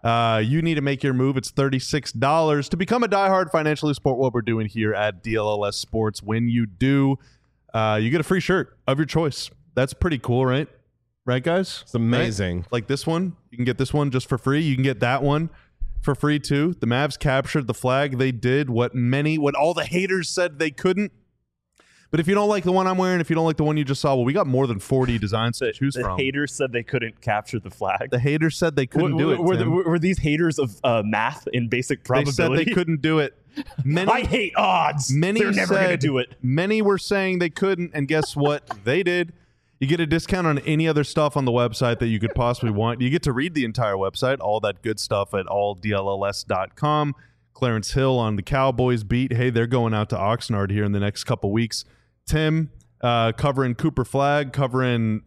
You need to make your move. It's $36 to become a diehard, financially support what we're doing here at DLLS Sports. When you do, you get a free shirt of your choice. That's pretty cool, right? Right, guys? It's amazing. Right? Like this one. You can get this one just for free. You can get that one for free, too. The Mavs captured the flag. They did what all the haters said they couldn't. But if you don't like the one I'm wearing, if you don't like the one you just saw, well, we got more than 40 designs to choose from. The haters said they couldn't capture the flag. The haters said they couldn't do it. Were these haters of math in basic probability? They said they couldn't do it. I hate odds. They're never going to do it. Many were saying they couldn't, and guess what? They did. You get a discount on any other stuff on the website that you could possibly want. You get to read the entire website, all that good stuff at alldlls.com. Clarence Hill on the Cowboys beat. Hey, they're going out to Oxnard here in the next couple weeks. Tim covering Cooper Flag, covering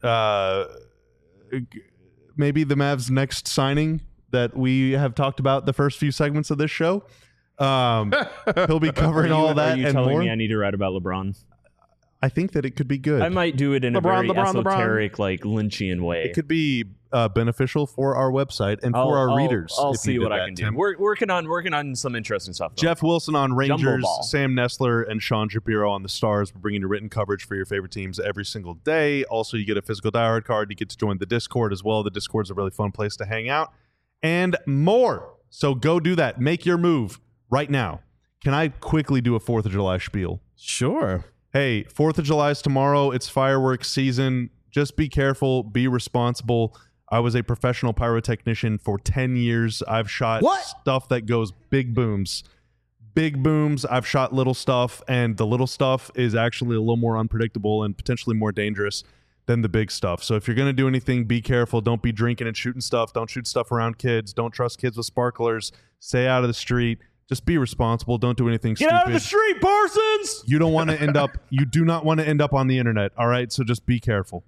maybe the Mavs' next signing that we have talked about the first few segments of this show. He'll be covering all that and more. Are you telling me I need to write about LeBron? I think that it could be good. I might do it in a very esoteric, like Lynchian way. It could be beneficial for our website and for our readers. I'll see what I can do. We're working on some interesting stuff. Though. Jeff Wilson on Rangers, Sam Nestler, and Sean Shapiro on the Stars. We're bringing you written coverage for your favorite teams every single day. Also, you get a physical diehard card. You get to join the Discord as well. The Discord's a really fun place to hang out. And more. So go do that. Make your move right now. Can I quickly do a 4th of July spiel? Sure. Hey, 4th of July is tomorrow. It's fireworks season. Just be careful. Be responsible. I was a professional pyrotechnician for 10 years. I've shot stuff that goes big booms. Big booms. I've shot little stuff, and the little stuff is actually a little more unpredictable and potentially more dangerous than the big stuff. So if you're going to do anything, be careful. Don't be drinking and shooting stuff. Don't shoot stuff around kids. Don't trust kids with sparklers. Stay out of the street. Just be responsible. Don't do anything stupid. Get out of the street, Parsons! You don't want to end up. You do not want to end up on the internet. All right, so just be careful.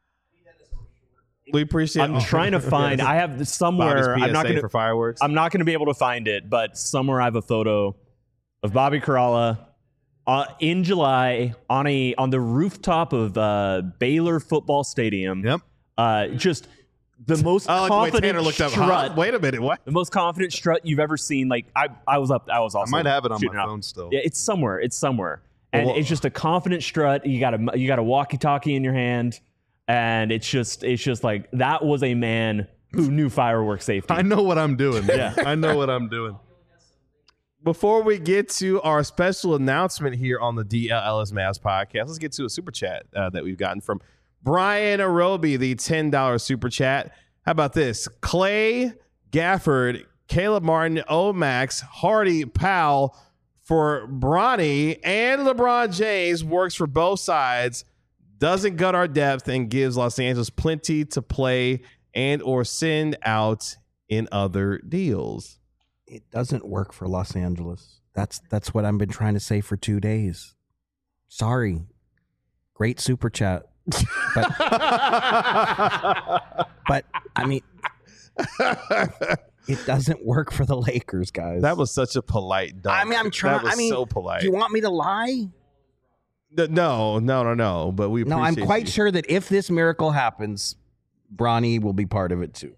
We appreciate. I'm trying to find. I have somewhere. I'm not going for fireworks. I'm not going to be able to find it, but somewhere I have a photo of Bobby Karalla in July on the rooftop of Baylor Football Stadium. Yep. Just. The most confident Tanner looked up, strut. Wait a minute, what? The most confident strut you've ever seen. Like I was also. I might have it on my phone still. Yeah, it's somewhere. And it's just a confident strut. You got a walkie-talkie in your hand, and it's just like that was a man who knew fireworks safety. I know what I'm doing. Yeah, I know what I'm doing. Before we get to our special announcement here on the DLLS Mavs podcast, let's get to a super chat that we've gotten from Brian Arobi, the $10 super chat. How about this? Clay Gafford, Caleb Martin, Omax, Hardy, Powell for Bronny, and LeBron James works for both sides, doesn't gut our depth, and gives Los Angeles plenty to play and or send out in other deals. It doesn't work for Los Angeles. That's what I've been trying to say for 2 days. Sorry. Great super chat. But I mean, it doesn't work for the Lakers, guys. That was such a polite dunk. I mean, I'm trying. That was so polite. Do you want me to lie? No. But we appreciate I'm quite sure that if this miracle happens, Bronny will be part of it too.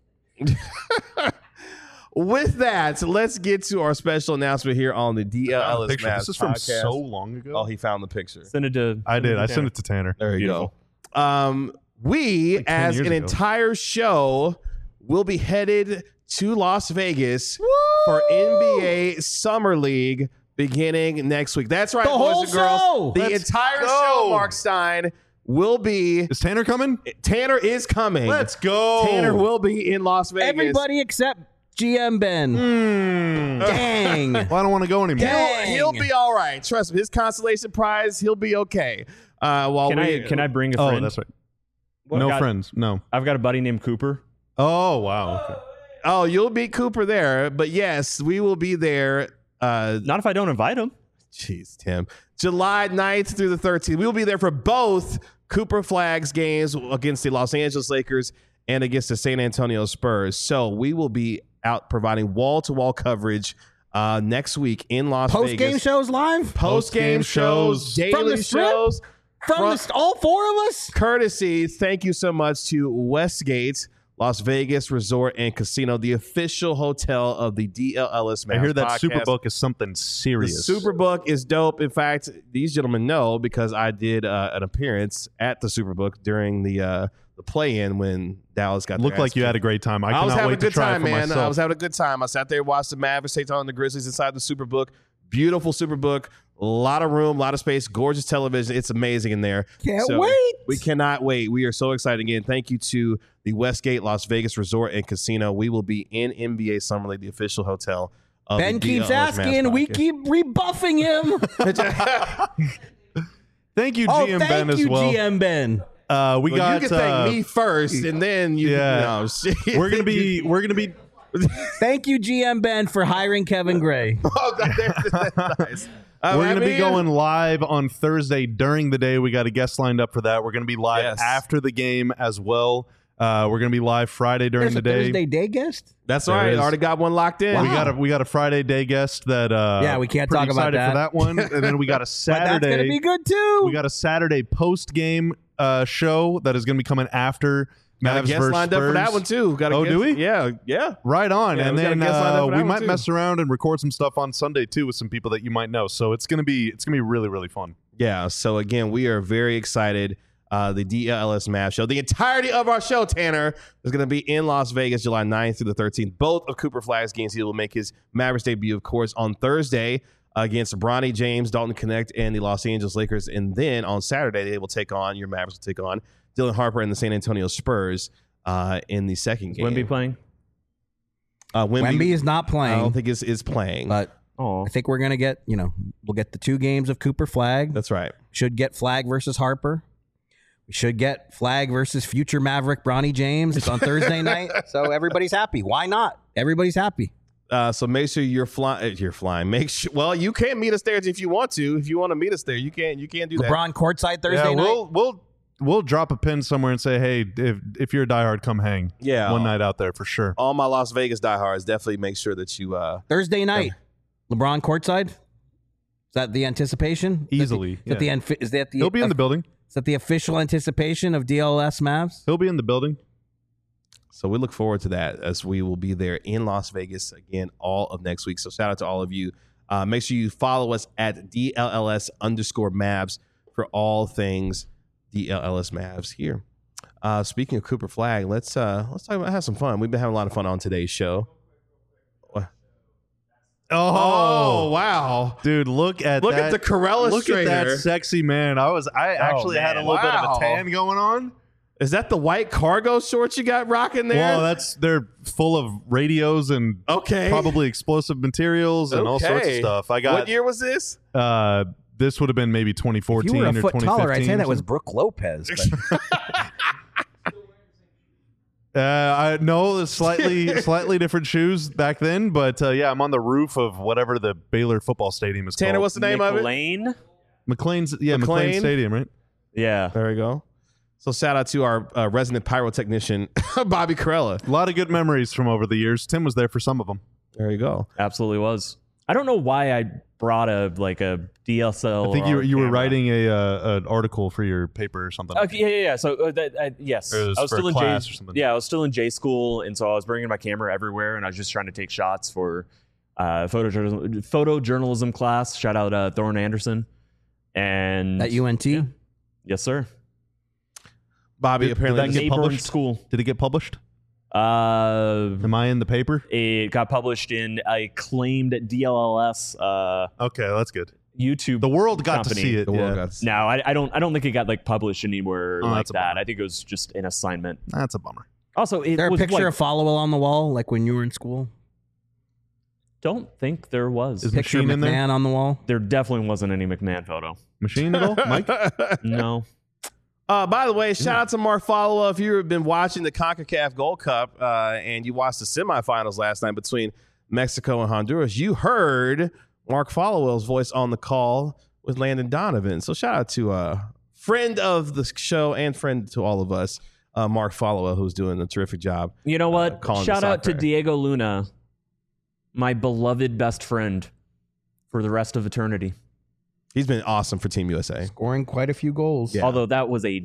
With that, let's get to our special announcent here on the DLLS Mavs This is from podcast. so long ago. Oh, he found the picture. Send it to. I did. I sent it to Tanner. There you Beautiful. go. We, Like 10 as years an ago. entire show, will be headed to Las Vegas for NBA Summer League beginning next week. That's right, The boys whole and girls. show! The Let's entire go! show, Mark Stein, will be. Is Tanner coming? Tanner is coming. Let's go. Tanner will be in Las Vegas. Everybody except GM Ben. Dang. Well, I don't want to go anymore. Dang. He'll be all right. Trust me. His consolation prize, he'll be okay. Can I bring a friend? Oh, that's right. What? No friends. No. I've got a buddy named Cooper. Oh, wow. Okay. Oh, you'll beat Cooper there. But yes, we will be there. Not if I don't invite him. Jeez, Tim. July 9th through the 13th. We will be there for both Cooper Flags games against the Los Angeles Lakers and against the San Antonio Spurs. So we will be out providing wall-to-wall coverage next week in Las Vegas. Post-game shows live? Post-game shows, From daily the strip? shows. From all four of us? Courtesy, thank you so much to Westgate Las Vegas Resort and Casino, the official hotel of the DLLS Mavs I hear that podcast. Superbook is something serious. The Superbook is dope. In fact, these gentlemen know because I did an appearance at the Superbook during the play-in when Dallas got. Looked like you had a great time. I was having a good time, man. Myself. I was having a good time. I sat there, watched the Mavericks take on the Grizzlies inside the Superbook. Beautiful Superbook. A lot of room, a lot of space, gorgeous television. It's amazing in there. Can't wait. We cannot wait. We are so excited again. Thank you to the Westgate Las Vegas Resort and Casino. We will be in NBA Summer League, the official hotel of Ben the keeps DLLS asking. Mavs We podcast. keep rebuffing him. Thank you, Oh, GM thank Ben, you, as well. GM Ben. We got. You can thank me first, and then you. Yeah. No, shit. We're gonna be. Thank you, GM Ben, for hiring Kevin Gray. Oh, that's nice. We're going to be going live on Thursday during the day. We got a guest lined up for that. We're going to be live after the game as well. We're going to be live Friday during the day. Thursday day guest? That's right. is. Already got one locked in. Wow. We got a Friday day guest that we can't pretty talk about excited that. for that one. And then we got a But Saturday. that's going to be good too. We got a Saturday post game show that is going to be coming after Got a Mavs guest versus lined up for Spurs. that one too. Got a guest, do we? Yeah. Right on. Yeah, And we got a then guest lined up for that we one, might too. mess around and record some stuff on Sunday too with some people that you might know. So it's gonna be really, really fun. Yeah. So again, we are very excited. The DLLS Mavs show. The entirety of our show, Tanner, is going to be in Las Vegas, July 9th through the 13th. Both of Cooper Flagg's games. He will make his Mavericks debut, of course, on Thursday against Bronny James, Dalton Connect, and the Los Angeles Lakers. And then on Saturday, they will take on, your Mavericks will take on Dylan Harper and the San Antonio Spurs in the second game. Wemby playing? Wemby is not I playing. don't think is playing. But Oh, I think we're going to get, we'll get the 2 games of Cooper Flagg. That's right. Should get Flagg versus Harper. We should get Flagg versus future Maverick Bronny James. It's on Thursday night. So everybody's happy. Why not? Everybody's happy. So make sure you're flying. Make sure. Well, you can meet us there if you want to. If you want to meet us there, you can. You can do that. LeBron courtside Thursday night. We'll drop a pin somewhere and say, hey, if you're a diehard, come hang. Yeah. One night out there for sure. All my Las Vegas diehards, definitely make sure that you. Thursday night. LeBron courtside. Is that the anticipation? Easily. Is that the He'll be in the building. Is that the official anticipation of DLS Mavs? He'll be in the building. So we look forward to that as we will be there in Las Vegas again all of next week. So shout out to all of you. Make sure you follow us at DLLS_Mavs for all things DLLS Mavs here. Speaking of Cooper Flagg, let's talk about have some fun. We've been having a lot of fun on today's show. Oh wow, dude! Look at the Corella Look at that sexy man. I actually had a little bit of a tan going on. Is that the white cargo shorts you got rocking there? Well, they're full of radios and probably explosive materials and all sorts of stuff. What year was this? This would have been maybe 2014 if you were a or foot 2015. taller, I'd say that was Brooke Lopez. I know slightly different shoes back then, but I'm on the roof of whatever the Baylor football stadium is Tanner, called. what's the name of it? McLean Stadium, right? Yeah. There we go. So shout out to our resident pyrotechnician, Bobby Corella. A lot of good memories from over the years. Tim was there for some of them. There you go. Absolutely was. I don't know why I brought a DSL. I think you were writing an article for your paper or something. Yeah. So yes, Or it was I was for still a in class J. or something. Yeah, I was still in J school, and so I was bringing my camera everywhere, and I was just trying to take shots for photojournalism class. Shout out Thorne Anderson, and at UNT. Yeah. Yes, sir. Bobby, apparently did that get neighboring published? School. Did it get published? Am I in the paper? It got published in a claimed DLLS. Okay, that's good. YouTube. The world got company. to see it. The world got to see No, I don't think it got published anywhere like that's a that. bummer. I think it was just an assignment. That's a bummer. Also, it Is there a was picture of Followell on the wall, like when you were in school? Don't think there was. Is Picture of Machine in there? McMahon on the wall. There definitely wasn't any McMahon photo. Machine at all, Mike? No. By the way, shout out to Mark Followa. If you've been watching the CONCACAF Gold Cup and you watched the semifinals last night between Mexico and Honduras, you heard Mark Followell's voice on the call with Landon Donovan. So shout out to friend of the show and friend to all of us, Mark Followa, who's doing a terrific job. You know what? calling Shout the out to soccer. Diego Luna, my beloved best friend for the rest of eternity. He's been awesome for Team USA. Scoring quite a few goals. Yeah. Although that was a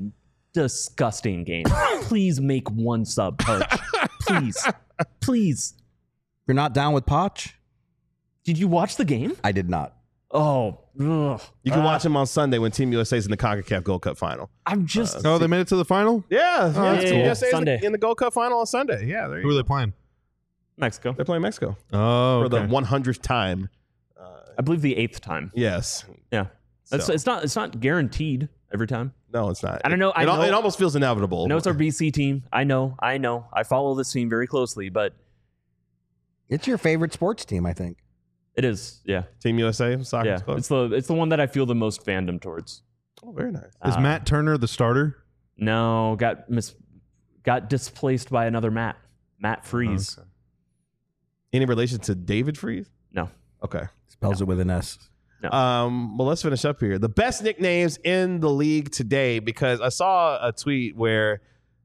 disgusting game. Please make one sub, Perch. Please. You're not down with Poch? Did you watch the game? I did not. Oh, ugh. You can watch him on Sunday when Team USA is in the CONCACAF Gold Cup final. I'm just. Oh, they made it to the final? Yeah, that's Team cool. USA is Sunday. in the Gold Cup final on Sunday. Yeah, there you Who are go. they playing? Mexico. They're playing Mexico Oh, for the okay. 100th time. I believe the 8th time. Yes. Yeah. So. It's not guaranteed every time. No, it's not. I don't know. It almost feels inevitable. I know it's our BC team. I know. I follow this team very closely, but It's your favorite sports team, I think. it is. Yeah. Team USA soccer Yeah. club. It's the one that I feel the most fandom towards. Oh, very nice. Is Matt Turner the starter? No, got displaced by another Matt Freeze. Okay. Any relation to David Freeze? No. Okay. Spells it with an S. Well, let's finish up here. The best nicknames in the league today, because I saw a tweet where,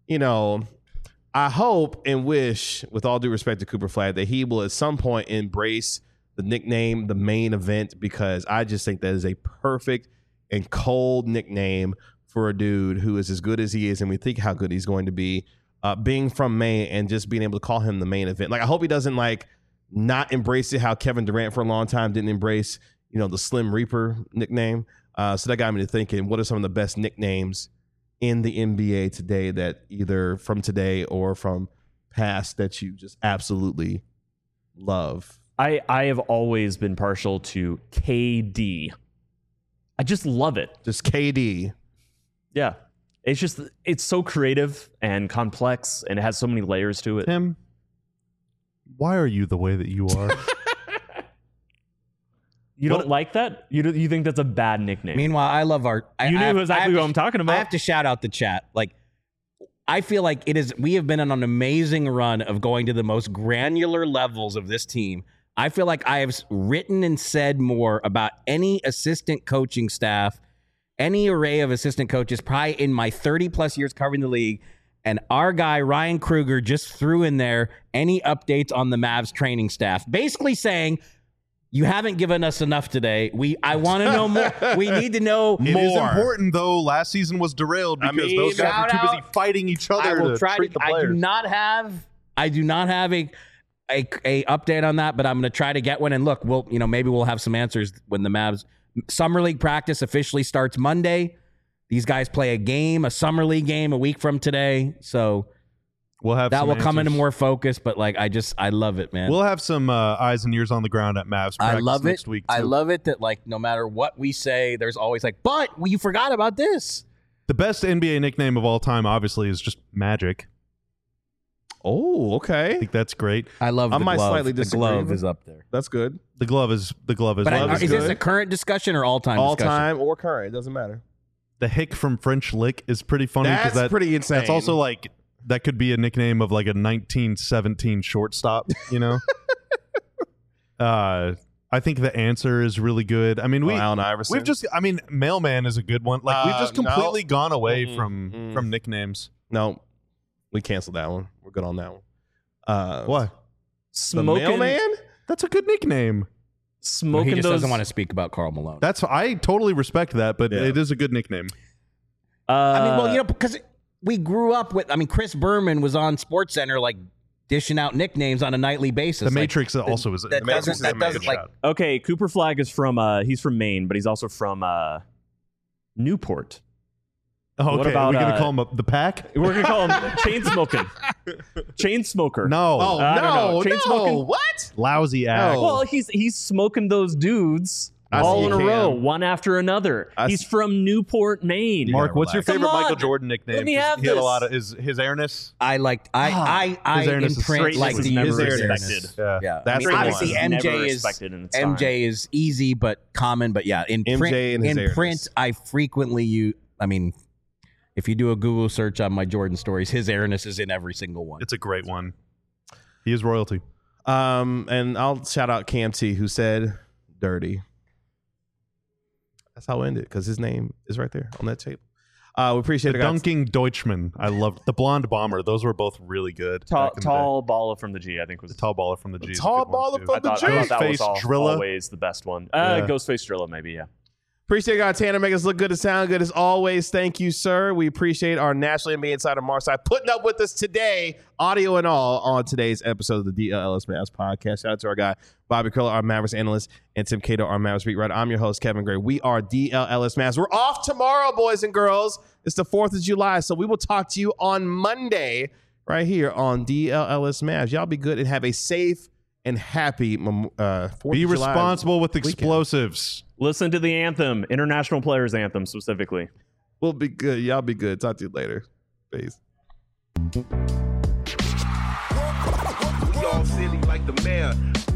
I hope and wish, with all due respect to Cooper Flag, that he will at some point embrace the nickname, the main event, because I just think that is a perfect and cold nickname for a dude who is as good as he is, and we think how good he's going to be, being from Maine and just being able to call him the main event. Like, I hope he doesn't not embrace it how Kevin Durant for a long time didn't embrace the Slim Reaper nickname. So that got me to thinking, what are some of the best nicknames in the NBA today that either from today or from past that you just absolutely love? I have always been partial to KD. I just love it. Just KD. Yeah. It's so creative and complex, and it has so many layers to it. Tim, why are you the way that you are? You don't like that? You think that's a bad nickname? Meanwhile, I love our. You knew exactly what I'm talking about. I have to shout out the chat. I feel like it is. We have been on an amazing run of going to the most granular levels of this team. I feel like I have written and said more about any assistant coaching staff, any array of assistant coaches, probably in my 30 plus years covering the league. And our guy, Ryan Kruger, just threw in there any updates on the Mavs training staff, basically saying, you haven't given us enough today. I want to know more. We need to know more. It is important, though. Last season was derailed because those guys were too busy fighting each other. I will try treat the I players. do not have a update on that, but I'm going to try to get one. And look, maybe we'll have some answers when the Mavs summer league practice officially starts Monday. These guys play a summer league game a week from today. So we'll have that some will come into answers. more focus. But I love it, man. We'll have some eyes and ears on the ground at Mavs practice I love next it. week. I too. love it that no matter what we say, there's always but you forgot about this. The best NBA nickname of all time, obviously, is just Magic. Oh, I okay. think that's great. I love I the might glove. slightly The disagree, glove but- is up there. That's good. The glove is But love is good. this a current discussion or all-time All discussion? time or current. It doesn't matter. The hick from French Lick is pretty funny. 'cause That's pretty insane. That's also that could be a nickname of a 1917 shortstop, I think the answer is really good. I mean, Allen Iverson. Mailman is a good one. We've just completely no. gone away from nicknames. No, we canceled that one. We're good on that one. What? The Smoking, mailman? That's a good nickname. smoking He just those. doesn't want to speak about Karl Malone. I totally respect that, but Yeah. it is a good nickname. Because we grew up with. Chris Berman was on SportsCenter, dishing out nicknames on a nightly basis. The Matrix also is. that Matrix doesn't. is That a doesn't Matrix. Okay, Cooper Flag is from. He's from Maine, but he's also from Newport. Oh, What okay, about, are we gonna call him the Pack? We're gonna call him Chain Smoking. Chain Smoker. No. Oh, I don't know. Chain no. smoking? What? Lousy act. No. Well, he's smoking those dudes I all see in you a row, can. one after another. I He's see- from Newport, Maine. Mark, what's your Come favorite on. Michael Jordan nickname? Let me 'Cause have he had a this. lot of his airness. I liked. I His airness is imprint greatness like is the never user's respected. airness. Yeah. Yeah, That's the obviously one. Never MJ is respected in its time. MJ is easy but common. But yeah, in MJ print, and his in print, airness. I frequently use. If you do a Google search on my Jordan stories, his airness is in every single one. It's a great one. He is royalty. And I'll shout out Cam T, who said dirty. That's how I end it, because his name is right there on that tape. We appreciate The it, guys. dunking Deutschman. I loved the blonde bomber. Those were both really good. Tall, back in the day. tall baller from the G, I think was The tall baller from the G. is a tall good one, baller too. from I thought the that was Ghostface Drilla. always the best one. Yeah. Ghostface Drilla, maybe, yeah. Appreciate God Tanner making us look good and sound good as always. Thank you, sir. We appreciate our National NBA Insider Markside putting up with us today, audio and all, on today's episode of the DLLS Mavs podcast. Shout out to our guy, Bobby Curler, our Mavericks analyst, and Tim Cato, our Mavericks beat writer. I'm your host, Kevin Gray. We are DLLS Mavs. We're off tomorrow, boys and girls. It's the 4th of July, so we will talk to you on Monday right here on DLLS Mavs. Y'all be good and have a safe and happy 4th Be of July responsible with weekend. Explosives. Listen to the anthem, International Players Anthem specifically. We'll be good. Y'all be good. Talk to you later. Peace. We all silly like the mayor.